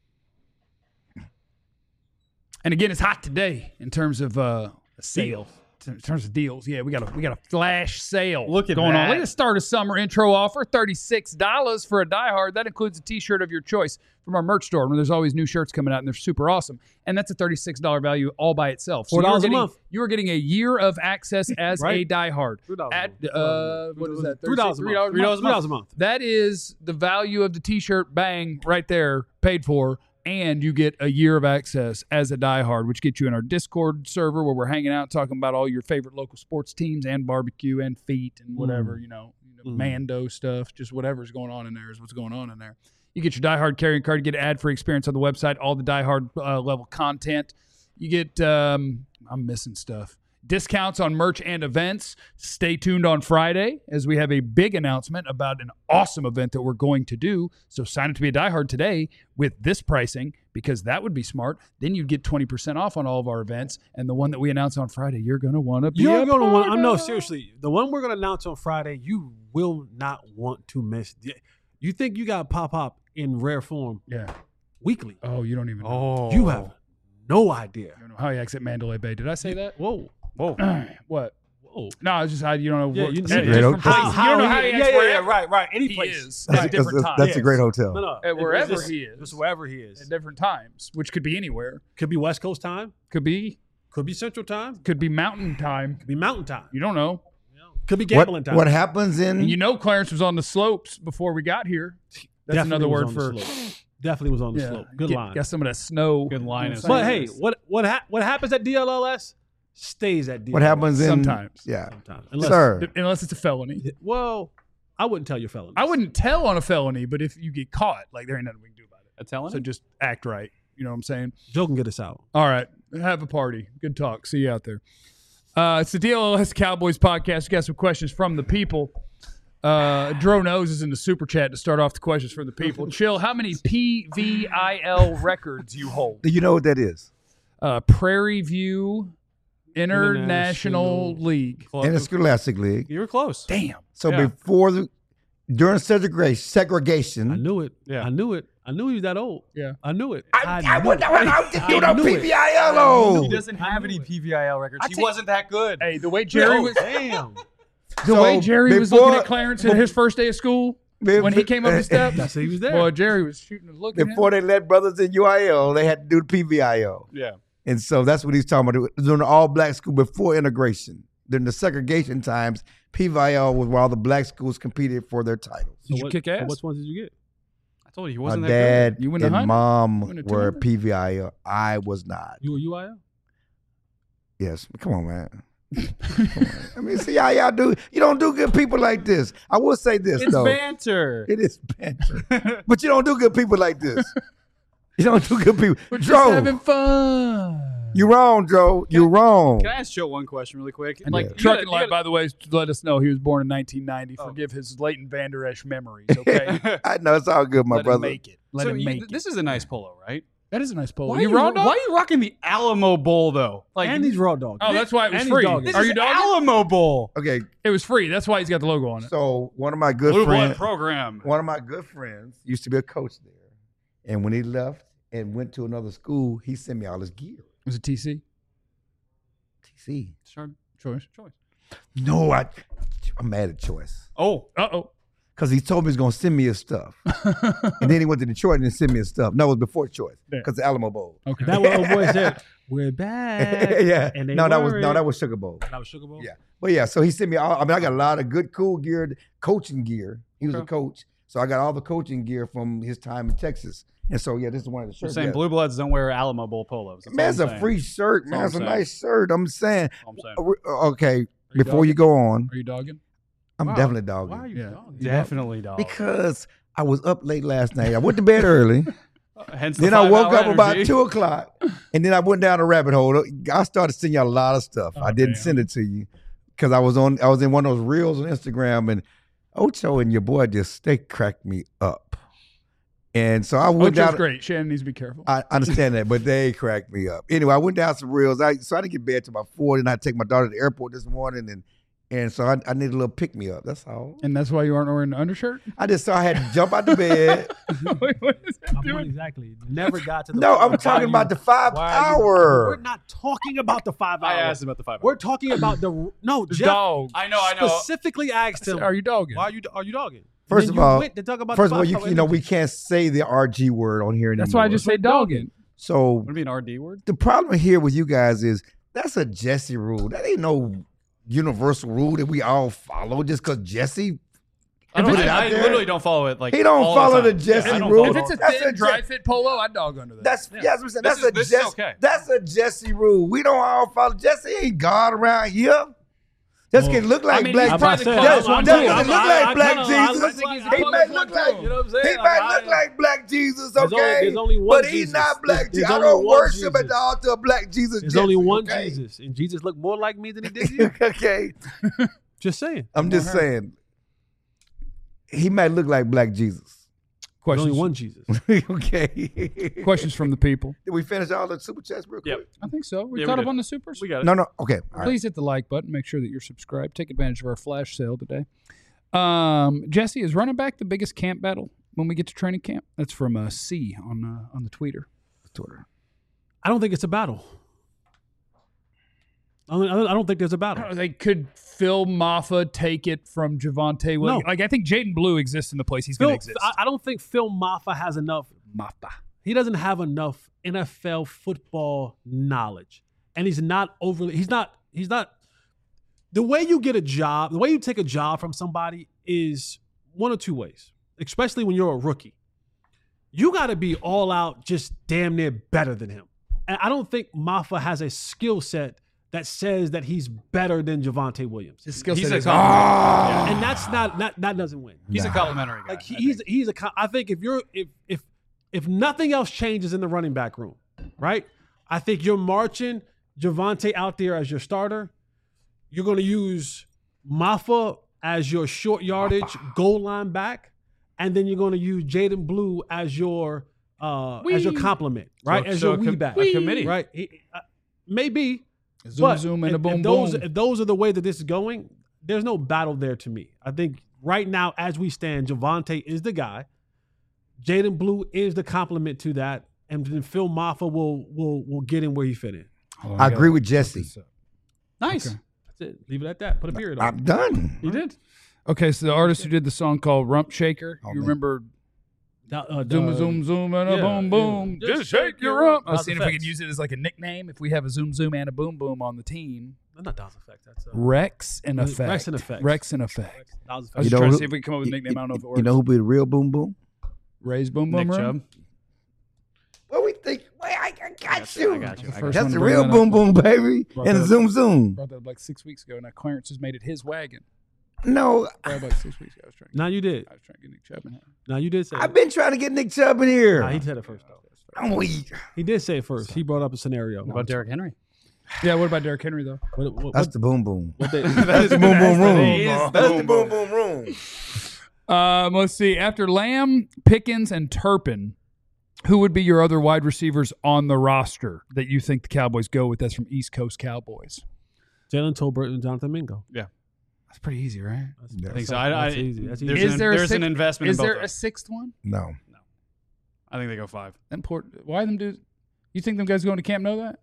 S1: And again, it's hot today in terms of uh, a sale. In terms of deals, yeah, we got a we got a flash sale
S3: Look at
S1: going on.
S3: that.
S1: Look at the start of summer intro offer, thirty-six dollars for a diehard. That includes a T-shirt of your choice from our merch store, where there's always new shirts coming out, and they're super awesome. And that's a thirty-six dollars value all by itself. So
S2: four dollars
S1: you're
S2: a
S1: getting,
S2: month.
S1: You are getting a year of access as a
S2: Right.
S1: diehard.
S2: Three dollars.
S1: At uh, what is that?
S2: Three dollars a
S1: Three
S2: month.
S1: dollars
S2: Three dollars a month.
S1: That is the value of the T-shirt. Bang, right there, paid for. And you get a year of access as a diehard, which gets you in our Discord server where we're hanging out talking about all your favorite local sports teams and barbecue and feet and whatever, you know, you know
S2: Mm.
S1: Mando stuff. Just whatever's going on in there is what's going on in there. You get your diehard carrying card. You get ad-free experience on the website, all the diehard uh, level content. You get, um, I'm missing stuff. Discounts on merch and events. Stay tuned on Friday as we have a big announcement about an awesome event that we're going to do. So sign up to be a diehard today with this pricing because that would be smart. Then you'd get twenty percent off on all of our events. And the one that we announce on Friday, you're going to want to be
S2: You're
S1: a
S2: going to want.
S1: part
S2: I'm no
S1: of.
S2: seriously. The one we're going to announce on Friday, you will not want to miss. You think you got pop up in rare form
S1: Yeah.
S2: weekly?
S1: Oh, you don't even know.
S3: Oh.
S2: You have no idea.
S1: You don't know how you exit Mandalay Bay. Did I say that?
S2: Whoa,
S3: Whoa.
S1: what?
S2: whoa.
S1: No, it's just how you don't know.
S2: Yeah,
S1: what,
S2: you-
S1: at
S2: That's a
S4: great
S1: different
S4: hotel.
S1: places. You don't know how he
S2: yeah,
S1: acts
S2: yeah, yeah,
S1: wherever
S2: right, right. Any
S1: he
S2: place.
S1: is
S4: That's,
S1: at different
S4: that's,
S1: times.
S4: that's a great hotel.
S2: No, no.
S1: At wherever
S2: It's just-
S1: he is.
S2: Just wherever he is.
S1: at different times, which could be anywhere.
S2: Could be West Coast time.
S1: Could be
S2: Could be Central time.
S1: could be mountain time.
S2: Could be Mountain time.
S1: You don't know.
S2: Could be
S4: What,
S2: gambling time.
S4: what happens in
S1: And you know Clarence was on the slopes before we got here. That's
S2: Definitely
S1: another
S2: was
S1: word
S2: on
S1: for
S2: the slope. Definitely was on the slope. Good
S1: get,
S2: line.
S1: Got some of that snow.
S3: Good line.
S1: But
S2: But hey, what what ha- what happens at D L L S stays at D L L S.
S4: what happens in
S1: Sometimes.
S4: Yeah,
S2: Sometimes. Unless,
S4: sir.
S1: unless it's a felony.
S2: Well, I wouldn't tell your felonies.
S1: I wouldn't tell on a felony, but if you get caught, like there ain't nothing we can do about it.
S3: A telling?
S1: So just act right. You know what I'm saying?
S2: Joe can get us out.
S1: All right. Have a party. Good talk. See you out there. Uh, it's the D L L S Cowboys podcast. We got some questions from the people. Uh, Dro Knows is in the super chat to start off the questions from the people. Chill, how many P V I L records you hold?
S4: Do you know what that is?
S1: Uh, Prairie View International,
S2: International
S1: League.
S4: In the Scholastic League.
S3: You were close.
S1: Damn.
S4: So
S3: Yeah.
S4: before the during segregation,
S2: I
S4: segregation,
S2: knew it.
S3: Yeah.
S2: I knew it. I knew he was that old.
S1: Yeah.
S2: I knew it.
S4: I, I,
S2: knew
S4: would
S2: it.
S4: I, I, you
S2: I
S4: know
S2: knew it.
S4: P V I L O.
S3: He doesn't have any P V I L records. He wasn't that good.
S1: Hey, the way Jerry
S2: Oh,
S1: was
S2: damn.
S1: the
S4: So
S1: way Jerry was
S4: before-
S1: looking at Clarence at his first day of school when he came up the steps.
S2: That's he was there.
S1: Boy, Jerry was shooting a look at him.
S4: Before they let brothers in U I L, they had to do the P V I L.
S3: Yeah.
S4: And so that's what he's talking about. During the all black school before integration. During the segregation times, P V I L was where all the black schools competed for their titles.
S1: Did you
S2: what-
S1: kick
S2: so
S1: ass?
S2: Which ones did you get?
S3: I told you he
S4: My
S3: wasn't that
S4: dad
S1: You win the
S4: and
S1: hundred?
S4: mom
S1: You win the two
S4: were
S1: hundred?
S4: P V I L. I was not.
S2: You a U I L?
S4: Yes. Come on, man. Come on. I mean, see how y'all do. You don't do good people like this. I will say this,
S3: good. It's
S4: though.
S3: banter.
S4: It is banter. But you don't do good people like this. You don't do good people.
S1: We're just
S4: Joe,
S1: having fun.
S4: you wrong, Joe. You wrong.
S3: Can I ask Joe one question really quick?
S1: And
S3: Like,
S1: the
S3: you
S1: trucking
S3: gotta-
S1: light,
S3: you
S1: by the way, let us know he was born in nineteen ninety.
S3: Oh.
S1: Forgive his Leighton Vander Esch memories, okay?
S3: gotta-
S4: I know it's all good, my
S1: Let
S4: brother.
S1: him make it. Let
S3: so
S1: him
S3: you-
S1: make
S3: this
S1: it.
S3: is a nice polo, right?
S1: That is a nice polo.
S3: Why
S1: you
S3: are you,
S1: raw
S3: why
S1: dog?
S3: are you rocking the Alamo Bowl though? Like
S2: And he's raw dog.
S1: Oh, that's why it was
S2: And he's
S1: free.
S2: dogging.
S3: this
S1: Are
S3: is
S1: you dogging?
S3: Alamo Bowl.
S4: Okay,
S1: It was free. That's why he's got the logo on it.
S4: so one of my good
S3: Blue blood
S4: friends,
S3: program.
S4: one of my good friends used to be a coach there, and when he left and went to another school, he sent me all his gear.
S1: Was it T C?
S4: T C.
S3: Sure.
S1: Choice.
S3: Choice.
S4: No, I, I'm mad at Choice
S3: Oh,
S1: Uh oh.
S4: because he told me he's gonna send me his stuff, and then he went to Detroit and sent me his stuff. No, it was before Choice
S1: Yeah.
S4: because the Alamo Bowl.
S1: Okay.
S2: That what old boy said. We're back.
S4: yeah,
S2: And they
S4: no, that was
S2: weren't.
S4: no, that was Sugar Bowl.
S2: That was Sugar Bowl.
S4: Yeah. But yeah, so he sent me all, I mean, I got a lot of good, cool gear, coaching gear. He was a
S3: Okay.
S4: coach. So I got all the coaching gear from his time in Texas. And so, yeah, this is one of the
S3: you're
S4: shirts.
S3: saying
S4: yeah.
S3: blue bloods don't wear Alamo Bowl polos. That's
S4: Man,
S3: all
S4: it's
S3: I'm
S4: a
S3: saying.
S4: free shirt,
S3: That's
S4: man.
S3: all
S4: It's a
S3: I'm
S4: nice shirt. I'm saying.
S3: That's all I'm saying.
S4: Uh, we- Okay,
S1: you
S4: before you go on,
S1: Are you dogging?
S4: I'm
S2: Wow.
S4: definitely dogging.
S2: Why are you
S1: Yeah.
S2: dogging?
S3: Definitely, dog.
S4: Because I was up late last night. I went to bed early.
S3: Hence the
S4: Then I woke
S3: five-hour
S4: up about
S3: energy.
S4: two o'clock. And then I went down a rabbit hole. I started sending you a lot of stuff.
S1: Oh,
S4: I didn't
S1: damn.
S4: send it to you because I was on. I was in one of those reels on Instagram, and Ocho and your boy just they cracked me up. And so I went
S1: Ocho's
S4: down.
S1: great. Shannon needs to be careful.
S4: I understand that, but they cracked me up. Anyway, I went down some reels. I so I didn't get bed till about four. Then I take my daughter to the airport this morning, and and so I, I need a little pick me up. That's all.
S1: And that's why you aren't wearing an undershirt?
S4: I just saw I had to jump out the bed.
S1: Wait, what is that
S2: I'm
S1: doing?
S2: exactly. Never got to the.
S4: No, I'm
S2: why
S4: talking
S2: you-
S4: about the five
S2: why are you-
S4: hour.
S2: We're not talking about the five
S3: I
S2: hour.
S3: asked him about the five.
S2: We're talking about the no.
S1: The
S2: Jeff
S1: dog.
S3: I know, I know.
S2: specifically asked him.
S1: Are you dogging?
S2: Why are you are you dogging?
S4: First
S2: Then
S4: of
S2: you
S4: all-
S2: went to talk about
S4: First
S2: the
S4: of all, you
S2: five-hour
S4: you know we
S2: energy.
S4: can't say the R G word on here anymore.
S1: That's why I just say dogging.
S4: So
S3: Would it be an R D word?
S4: the problem here with you guys is that's a Jesse rule. That ain't no universal rule that we all follow just because Jesse.
S3: I,
S4: Put
S3: don't,
S4: it
S3: I,
S4: out
S3: I
S4: there.
S3: literally don't follow it. Like
S4: He don't
S3: all
S4: follow
S3: the,
S4: the
S3: time.
S4: Jesse
S3: I don't
S4: rule.
S3: follow
S1: If it's a
S4: That's
S1: thin,
S4: a
S1: dry
S4: Je-
S1: fit polo, I'd dog under that.
S4: That's
S3: Yeah.
S4: yes, I'm saying
S3: This
S4: that's
S3: is-
S4: a
S3: this is
S4: Jesse.
S3: okay.
S4: That's a Jesse rule. We don't all follow. Jesse ain't God around here. Just
S2: Well,
S4: can look like
S1: I mean,
S4: black.
S1: he's
S2: I'm about
S1: probably
S2: to say,
S1: the
S4: Just,
S1: closest
S2: I'm-
S1: one
S2: I'm
S4: just
S1: to
S2: telling
S1: it.
S4: can
S2: you,
S4: look
S2: I-
S4: like
S2: I
S4: black
S2: kinda- I-
S4: Jesus.
S1: I think he's the
S4: He
S1: closest
S4: might
S1: one
S4: look
S1: to
S4: like
S1: him.
S2: You know what I'm saying?
S4: he
S2: Like,
S4: might
S2: I-
S4: look like black Jesus,
S2: There's only-
S4: okay?
S2: there's only one
S4: but he's
S2: Jesus.
S4: not black
S2: There's-
S4: Jesus.
S2: there's
S4: I don't
S2: only one
S4: worship at
S2: Jesus.
S4: the altar of black Jesus.
S2: There's
S4: Jesse,
S2: only one
S4: okay?
S2: Jesus, and Jesus looked more like me than he did you.
S4: Okay,
S2: Just saying.
S4: I'm just
S1: Come on,
S4: saying. He might look like black Jesus.
S2: There's
S1: Questions,
S2: only one Jesus.
S4: Okay.
S1: questions from the people.
S4: Did we finish all the super chats real quick?
S3: Yep.
S1: I think so. We
S3: Yeah, we
S1: caught up
S3: did.
S1: on the supers.
S3: We got it.
S4: No, no. Okay. All right.
S1: Please hit the like button. Make sure that you're subscribed. Take advantage of our flash sale today. Um, Jesse, is running back the biggest camp battle when we get to training camp? That's from uh, C on uh, on the tweeter.
S4: Twitter.
S2: I don't think it's a battle. I don't, I don't think there's a
S1: I
S2: battle.
S1: don't know, they could Phil Maffa take it from Javante Williams.
S2: No.
S1: Like I think Jaden Blue exists in the place he's
S2: Phil,
S1: going to exist.
S2: I, I don't think Phil Maffa has enough.
S1: Maffa.
S2: He doesn't have enough N F L football knowledge, and he's not overly. He's not. He's not. The way you get a job, the way you take a job from somebody is one of two ways. Especially when you're a rookie, you got to be all out, just damn near better than him. And I don't think Maffa has a skill set that says that he's better than Javante Williams.
S1: His skill
S3: He's
S1: set
S3: a
S1: is
S3: compliment.
S2: And that's not that that doesn't win.
S3: He's a
S4: Nah.
S3: complimentary guy.
S2: Like he,
S3: I
S2: he's
S3: think.
S2: he's a. co- I think if you're if if if nothing else changes in the running back room, right? I think you're marching Javante out there as your starter. You're going to use Maffa as your short yardage goal line back, and then you're going to use Jaden Blue as your uh as your
S1: Wee.
S2: complement, right?
S3: So-
S2: as
S3: so
S2: your
S3: a
S2: wee
S3: com-
S2: back,
S3: a committee.
S2: right? He- uh, maybe.
S1: Zoom,
S2: But
S1: zoom, and
S2: if,
S1: a boom,
S2: if those,
S1: boom.
S2: If those are the way that this is going, there's no battle there to me. I think right now, as we stand, Javante is the guy. Jaden Blue is the complement to that, and then Phil Maffa will will will get in where he fit in.
S1: Hold on,
S4: I
S1: gotta
S4: agree with
S1: look
S4: Jesse.
S1: this up.
S3: Nice.
S1: Okay.
S2: That's it. Leave it at that. Put a period on
S4: I'm
S2: it.
S4: done.
S3: He did.
S1: Okay, so the artist who did the song called Rump Shaker,
S4: Oh,
S1: you
S4: man.
S1: remember
S2: That, uh,
S1: zoom,
S2: uh,
S1: zoom, zoom, and a
S2: yeah,
S1: boom, boom.
S2: yeah.
S1: Just shake your rump. I was
S2: Nas
S1: seeing if we could
S2: Effects.
S1: use it as like a nickname. If we have a zoom, zoom, and a boom, boom on the team.
S2: That's not Dawes Effect. That's uh,
S1: Rex and
S2: Rex
S1: Effect.
S2: and Effect.
S1: Rex and Effect.
S2: Dawes
S1: I was
S2: Effect.
S4: You
S1: just
S4: know
S1: trying to
S4: who-
S1: see if we can come up with a nickname. I don't know if it works.
S4: You know who be the real boom boom?
S1: Ray's boom boom
S3: Nick
S1: room.
S3: Chubb.
S4: What we think? Wait, I, I got
S3: you,
S4: you.
S3: I got you. I got
S1: First
S3: you.
S1: one
S4: That's
S1: to
S4: the
S1: bring
S4: real
S1: that
S4: boom
S1: up.
S4: boom, baby.
S1: Brought
S4: And
S1: that-
S4: zoom zoom.
S1: Brought that up like six weeks ago. Now Clarence has made it his wagon.
S4: No,
S1: Brought it like six weeks ago. I was trying. To
S2: Now you did.
S1: I was trying to get Nick Chubb in here.
S2: Now you did say.
S4: I've
S2: it.
S4: been trying to get Nick Chubb in here.
S2: Nah, he said it first though.
S4: I'm weak.
S2: He did say it first. He brought up a scenario.
S3: What about Derrick Henry?
S1: Yeah. What about Derrick Henry though?
S2: What, what,
S4: That's
S2: what,
S4: the boom boom.
S2: what they,
S3: That is
S4: the boom boom room.
S3: That is the
S4: That's
S3: boom
S4: the boom boom room.
S1: Um, let's see. After Lamb, Pickens, and Turpin, who would be your other wide receivers on the roster that you think the Cowboys go with? That's from East Coast Cowboys.
S2: Jalen Tolbert and Jonathan Mingo.
S1: That's pretty easy, right?
S2: That's,
S4: Yeah.
S3: I think so. I, I,
S2: That's easy. That's
S3: there's
S2: easy.
S1: Is
S3: an,
S1: there a
S3: there's an
S1: sixth-
S3: investment
S1: Is
S3: in both
S1: there
S3: of
S1: a
S3: them.
S1: sixth one?
S4: No.
S3: I think they go five.
S1: Important. Why them do? You think them guys going to camp know that?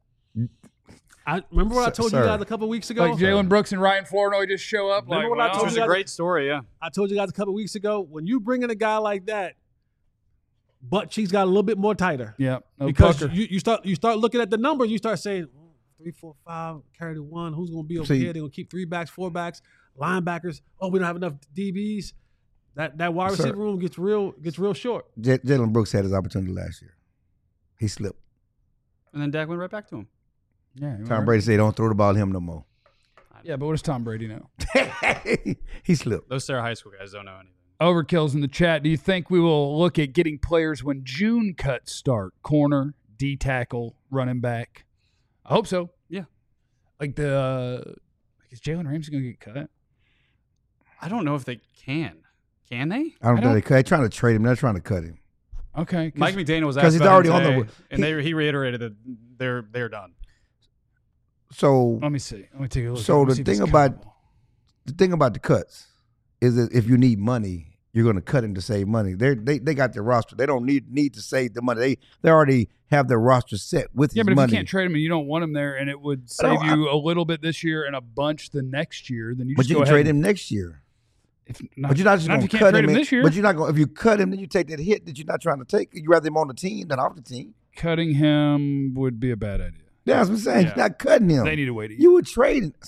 S2: I remember what I
S4: Sir-
S2: told
S4: sir.
S2: you guys a couple weeks ago.
S1: Like Jalen Brooks and Ryan Flournoy just show up.
S2: Remember
S1: like,
S2: what I
S1: well,
S2: told
S3: Which
S2: you
S3: is a
S2: guys-
S3: great story, yeah.
S2: I told you guys a couple weeks ago. When you bring in a guy like that, butt cheeks got a little bit more tighter.
S1: Yeah. No
S2: because
S1: pucker.
S2: you, you start you start looking at the numbers, you start saying "Oh, three, four, five, carry the one. Who's going to be over
S4: See-
S2: here? They're going to keep three backs, four backs, linebackers. Oh, we don't have enough D Bs. That that wide
S4: Sir.
S2: receiver room gets real gets real short.
S4: J- Jalen Brooks had his opportunity last year. He slipped.
S3: And then Dak went right back to him.
S1: yeah.
S4: Tom Brady said, "Don't throw the ball to him no more."
S1: Yeah, but what does Tom Brady know?
S4: He slipped.
S3: Those Sarah High School guys don't know anything.
S1: Overkill's in the chat. Do you think we will look at getting players when June cuts start? Corner, D tackle, running back. I hope so.
S3: Yeah.
S1: Like the uh, like is Jalen Ramsey going to get cut?
S3: I don't know if they can. Can they?
S4: I don't
S1: I
S4: think they cut. They're trying to trade him. They're trying to cut him.
S1: Okay. 'cause-
S3: Mike McDaniel was
S4: 'cause
S3: asked
S4: he's
S3: about
S4: already
S3: him
S4: on the-
S3: today, and
S4: he-
S3: they he reiterated that they're they're done.
S4: So
S1: Let me see. Let me take a look.
S4: So
S1: Let me
S4: the
S1: see
S4: thing
S1: this
S4: about-
S1: Cowboy.
S4: the thing about the cuts is that if you need money, you're going to cut him to save money. They they they got their roster. They don't need need to save the money. They they already have their roster set with
S1: Yeah,
S4: his
S1: but if
S4: money.
S1: you can't trade him and you don't want him there, and it would
S4: I don't-
S1: save you a little bit this year and a bunch the next year, then you
S4: but
S1: just
S4: you
S1: go
S4: can
S1: ahead
S4: trade
S1: and-
S4: him next year.
S1: If not,
S4: But you're not just
S1: not
S4: going
S1: if
S4: to
S1: you can't
S4: cut
S1: trade
S4: him
S1: him
S4: in-
S1: this year.
S4: But you're not going. If you cut him, then you take that hit that you're not trying to take. You rather him on the team than off the team.
S1: Cutting him would be a bad idea.
S4: Yeah, that's what I'm saying.
S3: Yeah.
S4: You're not cutting him.
S1: They need to wait a year.
S4: You would trade him.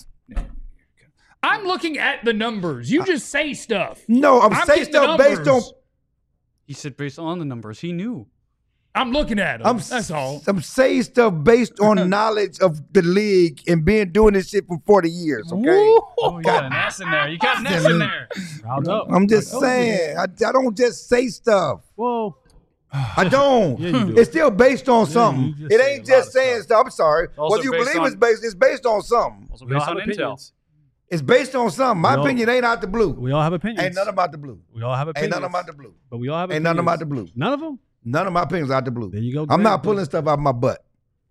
S1: I'm looking at the numbers. You just say stuff.
S4: No, I'm,
S1: I'm
S4: saying
S1: getting the
S4: stuff based on.
S1: numbers.
S3: He said based on the numbers, he knew.
S1: I'm looking at them.
S4: I'm
S1: That's all.
S4: I'm saying stuff based on knowledge of the league and being doing this shit for forty years. Okay.
S3: Oh, you got an S in there. You got an S in there.
S2: Round up.
S4: I'm just
S2: I told you.
S4: saying. I, I don't just say stuff.
S2: Whoa.
S4: I don't.
S2: Yeah, you do.
S4: It's still based on something.
S2: you just
S4: It
S2: say
S4: ain't
S2: a lot
S4: just
S2: of
S4: saying stuff. I'm sorry.
S3: Also
S4: Whether you
S3: based
S4: believe
S3: on-
S4: it's based, it's based on something.
S3: Also
S2: We all
S3: based
S2: have
S3: on intel.
S2: opinions.
S4: It's based on something. My
S2: We all-
S4: opinion ain't out the blue.
S2: We all have opinions.
S4: Ain't nothing about the blue.
S2: We all have
S4: Ain't
S2: opinions.
S4: nothing about the blue.
S2: But we all have
S4: Ain't
S2: opinions.
S4: nothing about the blue.
S2: None of them?
S4: None of my opinions out the blue.
S2: There you go.
S4: I'm
S2: Greg.
S4: not pulling stuff out my butt.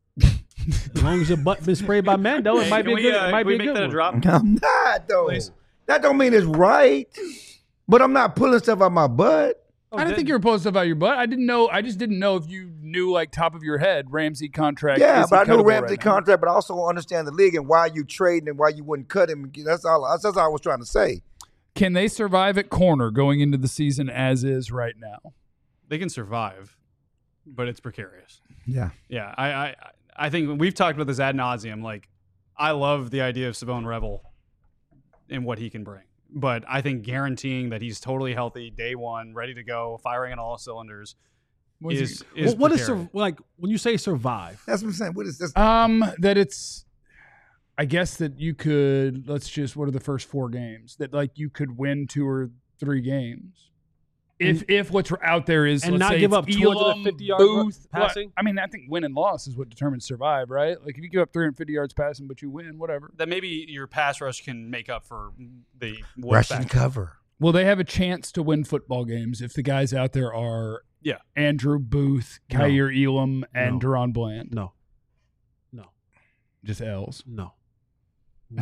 S2: As long as your butt been sprayed by Mando, it might be
S3: Can
S2: a
S3: we,
S2: good,
S3: uh,
S2: it might
S3: can
S2: be
S3: we
S2: a
S3: make
S2: good
S3: that a
S2: one.
S3: drop?
S4: I'm not though.
S3: Please.
S4: That don't mean it's right. But I'm not pulling stuff out my butt.
S1: I didn't think you were pulling stuff out your butt. I didn't know. I just didn't know if you knew, like, top of your head, Ramsey contract.
S4: Yeah,
S1: is
S4: but
S1: he
S4: I know
S1: cuttable
S4: Ramsey
S1: right now?
S4: contract, but I also understand the league and why you trading and why you wouldn't cut him. That's all. That's all I was trying to say.
S1: Can they survive at corner going into the season as is right now?
S3: They can survive, but it's precarious.
S4: Yeah.
S3: Yeah, I, I, I think we've talked about this ad nauseum. Like, I love the idea of Savone Revel and what he can bring, but I think guaranteeing that he's totally healthy day one, ready to go, firing on all cylinders,
S1: What is
S3: is
S2: Well,
S3: is
S2: what is
S3: precarious.
S2: sur- like when you say survive?
S4: That's what I'm saying. What is this?
S1: Um, that it's, I guess that you could, let's just, what are the first four games? That, like, you could win two or three games. If if what's out there is,
S2: and
S1: let's
S2: not
S1: say
S2: give
S1: it's
S2: up two hundred fifty yards
S1: Elam, Booth,
S2: ru- passing?
S1: what- I mean, I think win and loss is what determines survive, right? Like, if you give up three hundred fifty yards passing, but you win, whatever.
S3: that maybe your pass rush can make up for the what
S4: Russian
S3: factor.
S4: cover.
S1: Well, they have a chance to win football games if the guys out there are
S3: Yeah.
S1: Andrew Booth,
S2: No.
S1: Kyer Elam, and
S2: No.
S1: Deron Bland.
S2: No. No.
S1: Just L's.
S2: No. No.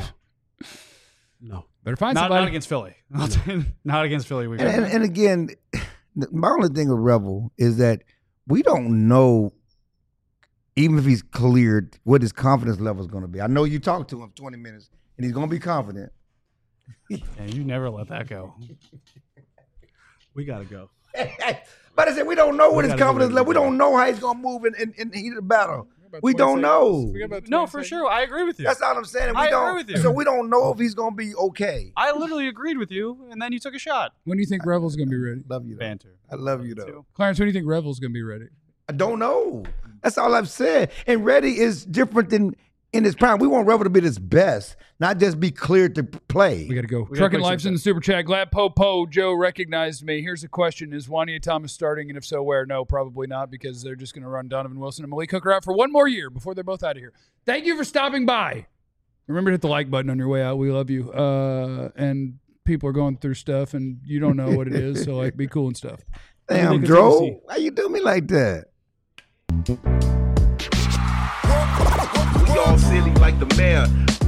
S2: No.
S1: Better find
S3: Not,
S1: somebody.
S3: not against Philly. Not against Philly. We
S4: And, and, and again, my only thing with Revel is that we don't know, even if he's cleared, what his confidence level is going to be. I know you talked to him for twenty minutes, and he's going to be confident.
S3: yeah, you never let that go.
S2: We gotta go.
S4: But I said we don't know what
S2: We
S4: his
S2: gotta go
S4: confidence
S2: ready
S4: level. We
S2: to go.
S4: don't know how he's going to move in, in, in the heat of the battle.
S1: about
S4: We
S1: twenty
S4: don't
S1: seconds.
S4: know.
S1: We got about
S3: No,
S1: twenty
S3: for
S1: seconds.
S3: sure. I agree with you.
S4: That's all I'm saying. We
S3: I
S4: don't,
S3: agree with you.
S4: So we don't know if he's gonna be okay.
S3: I literally agreed with you, and then you took a shot.
S1: When do you think Revel's going to be ready?
S4: Love you, though.
S3: Banter.
S4: I love you though.
S1: Clarence, when do you think Revel's going to be ready?
S4: I don't know. That's all I've said. And Reddy is different than in his prime. We want Revel to be his best, not just be cleared to play.
S1: We got to go.
S3: gotta
S1: Trucking
S3: play
S1: Life's
S3: some
S1: in the super chat. Glad Popo Joe recognized me. Here's a question: is Juania Thomas starting, and if so, where? No, probably not, because they're just going to run Donovan Wilson and Malik Hooker out for one more year before they're both out of here. Thank you for stopping by. Remember to hit the like button on your way out. We love you. Uh, and people are going through stuff, and you don't know what it is, so like, be cool and stuff.
S4: Damn, Dro, why you do me like that?
S7: We all silly like the mayor.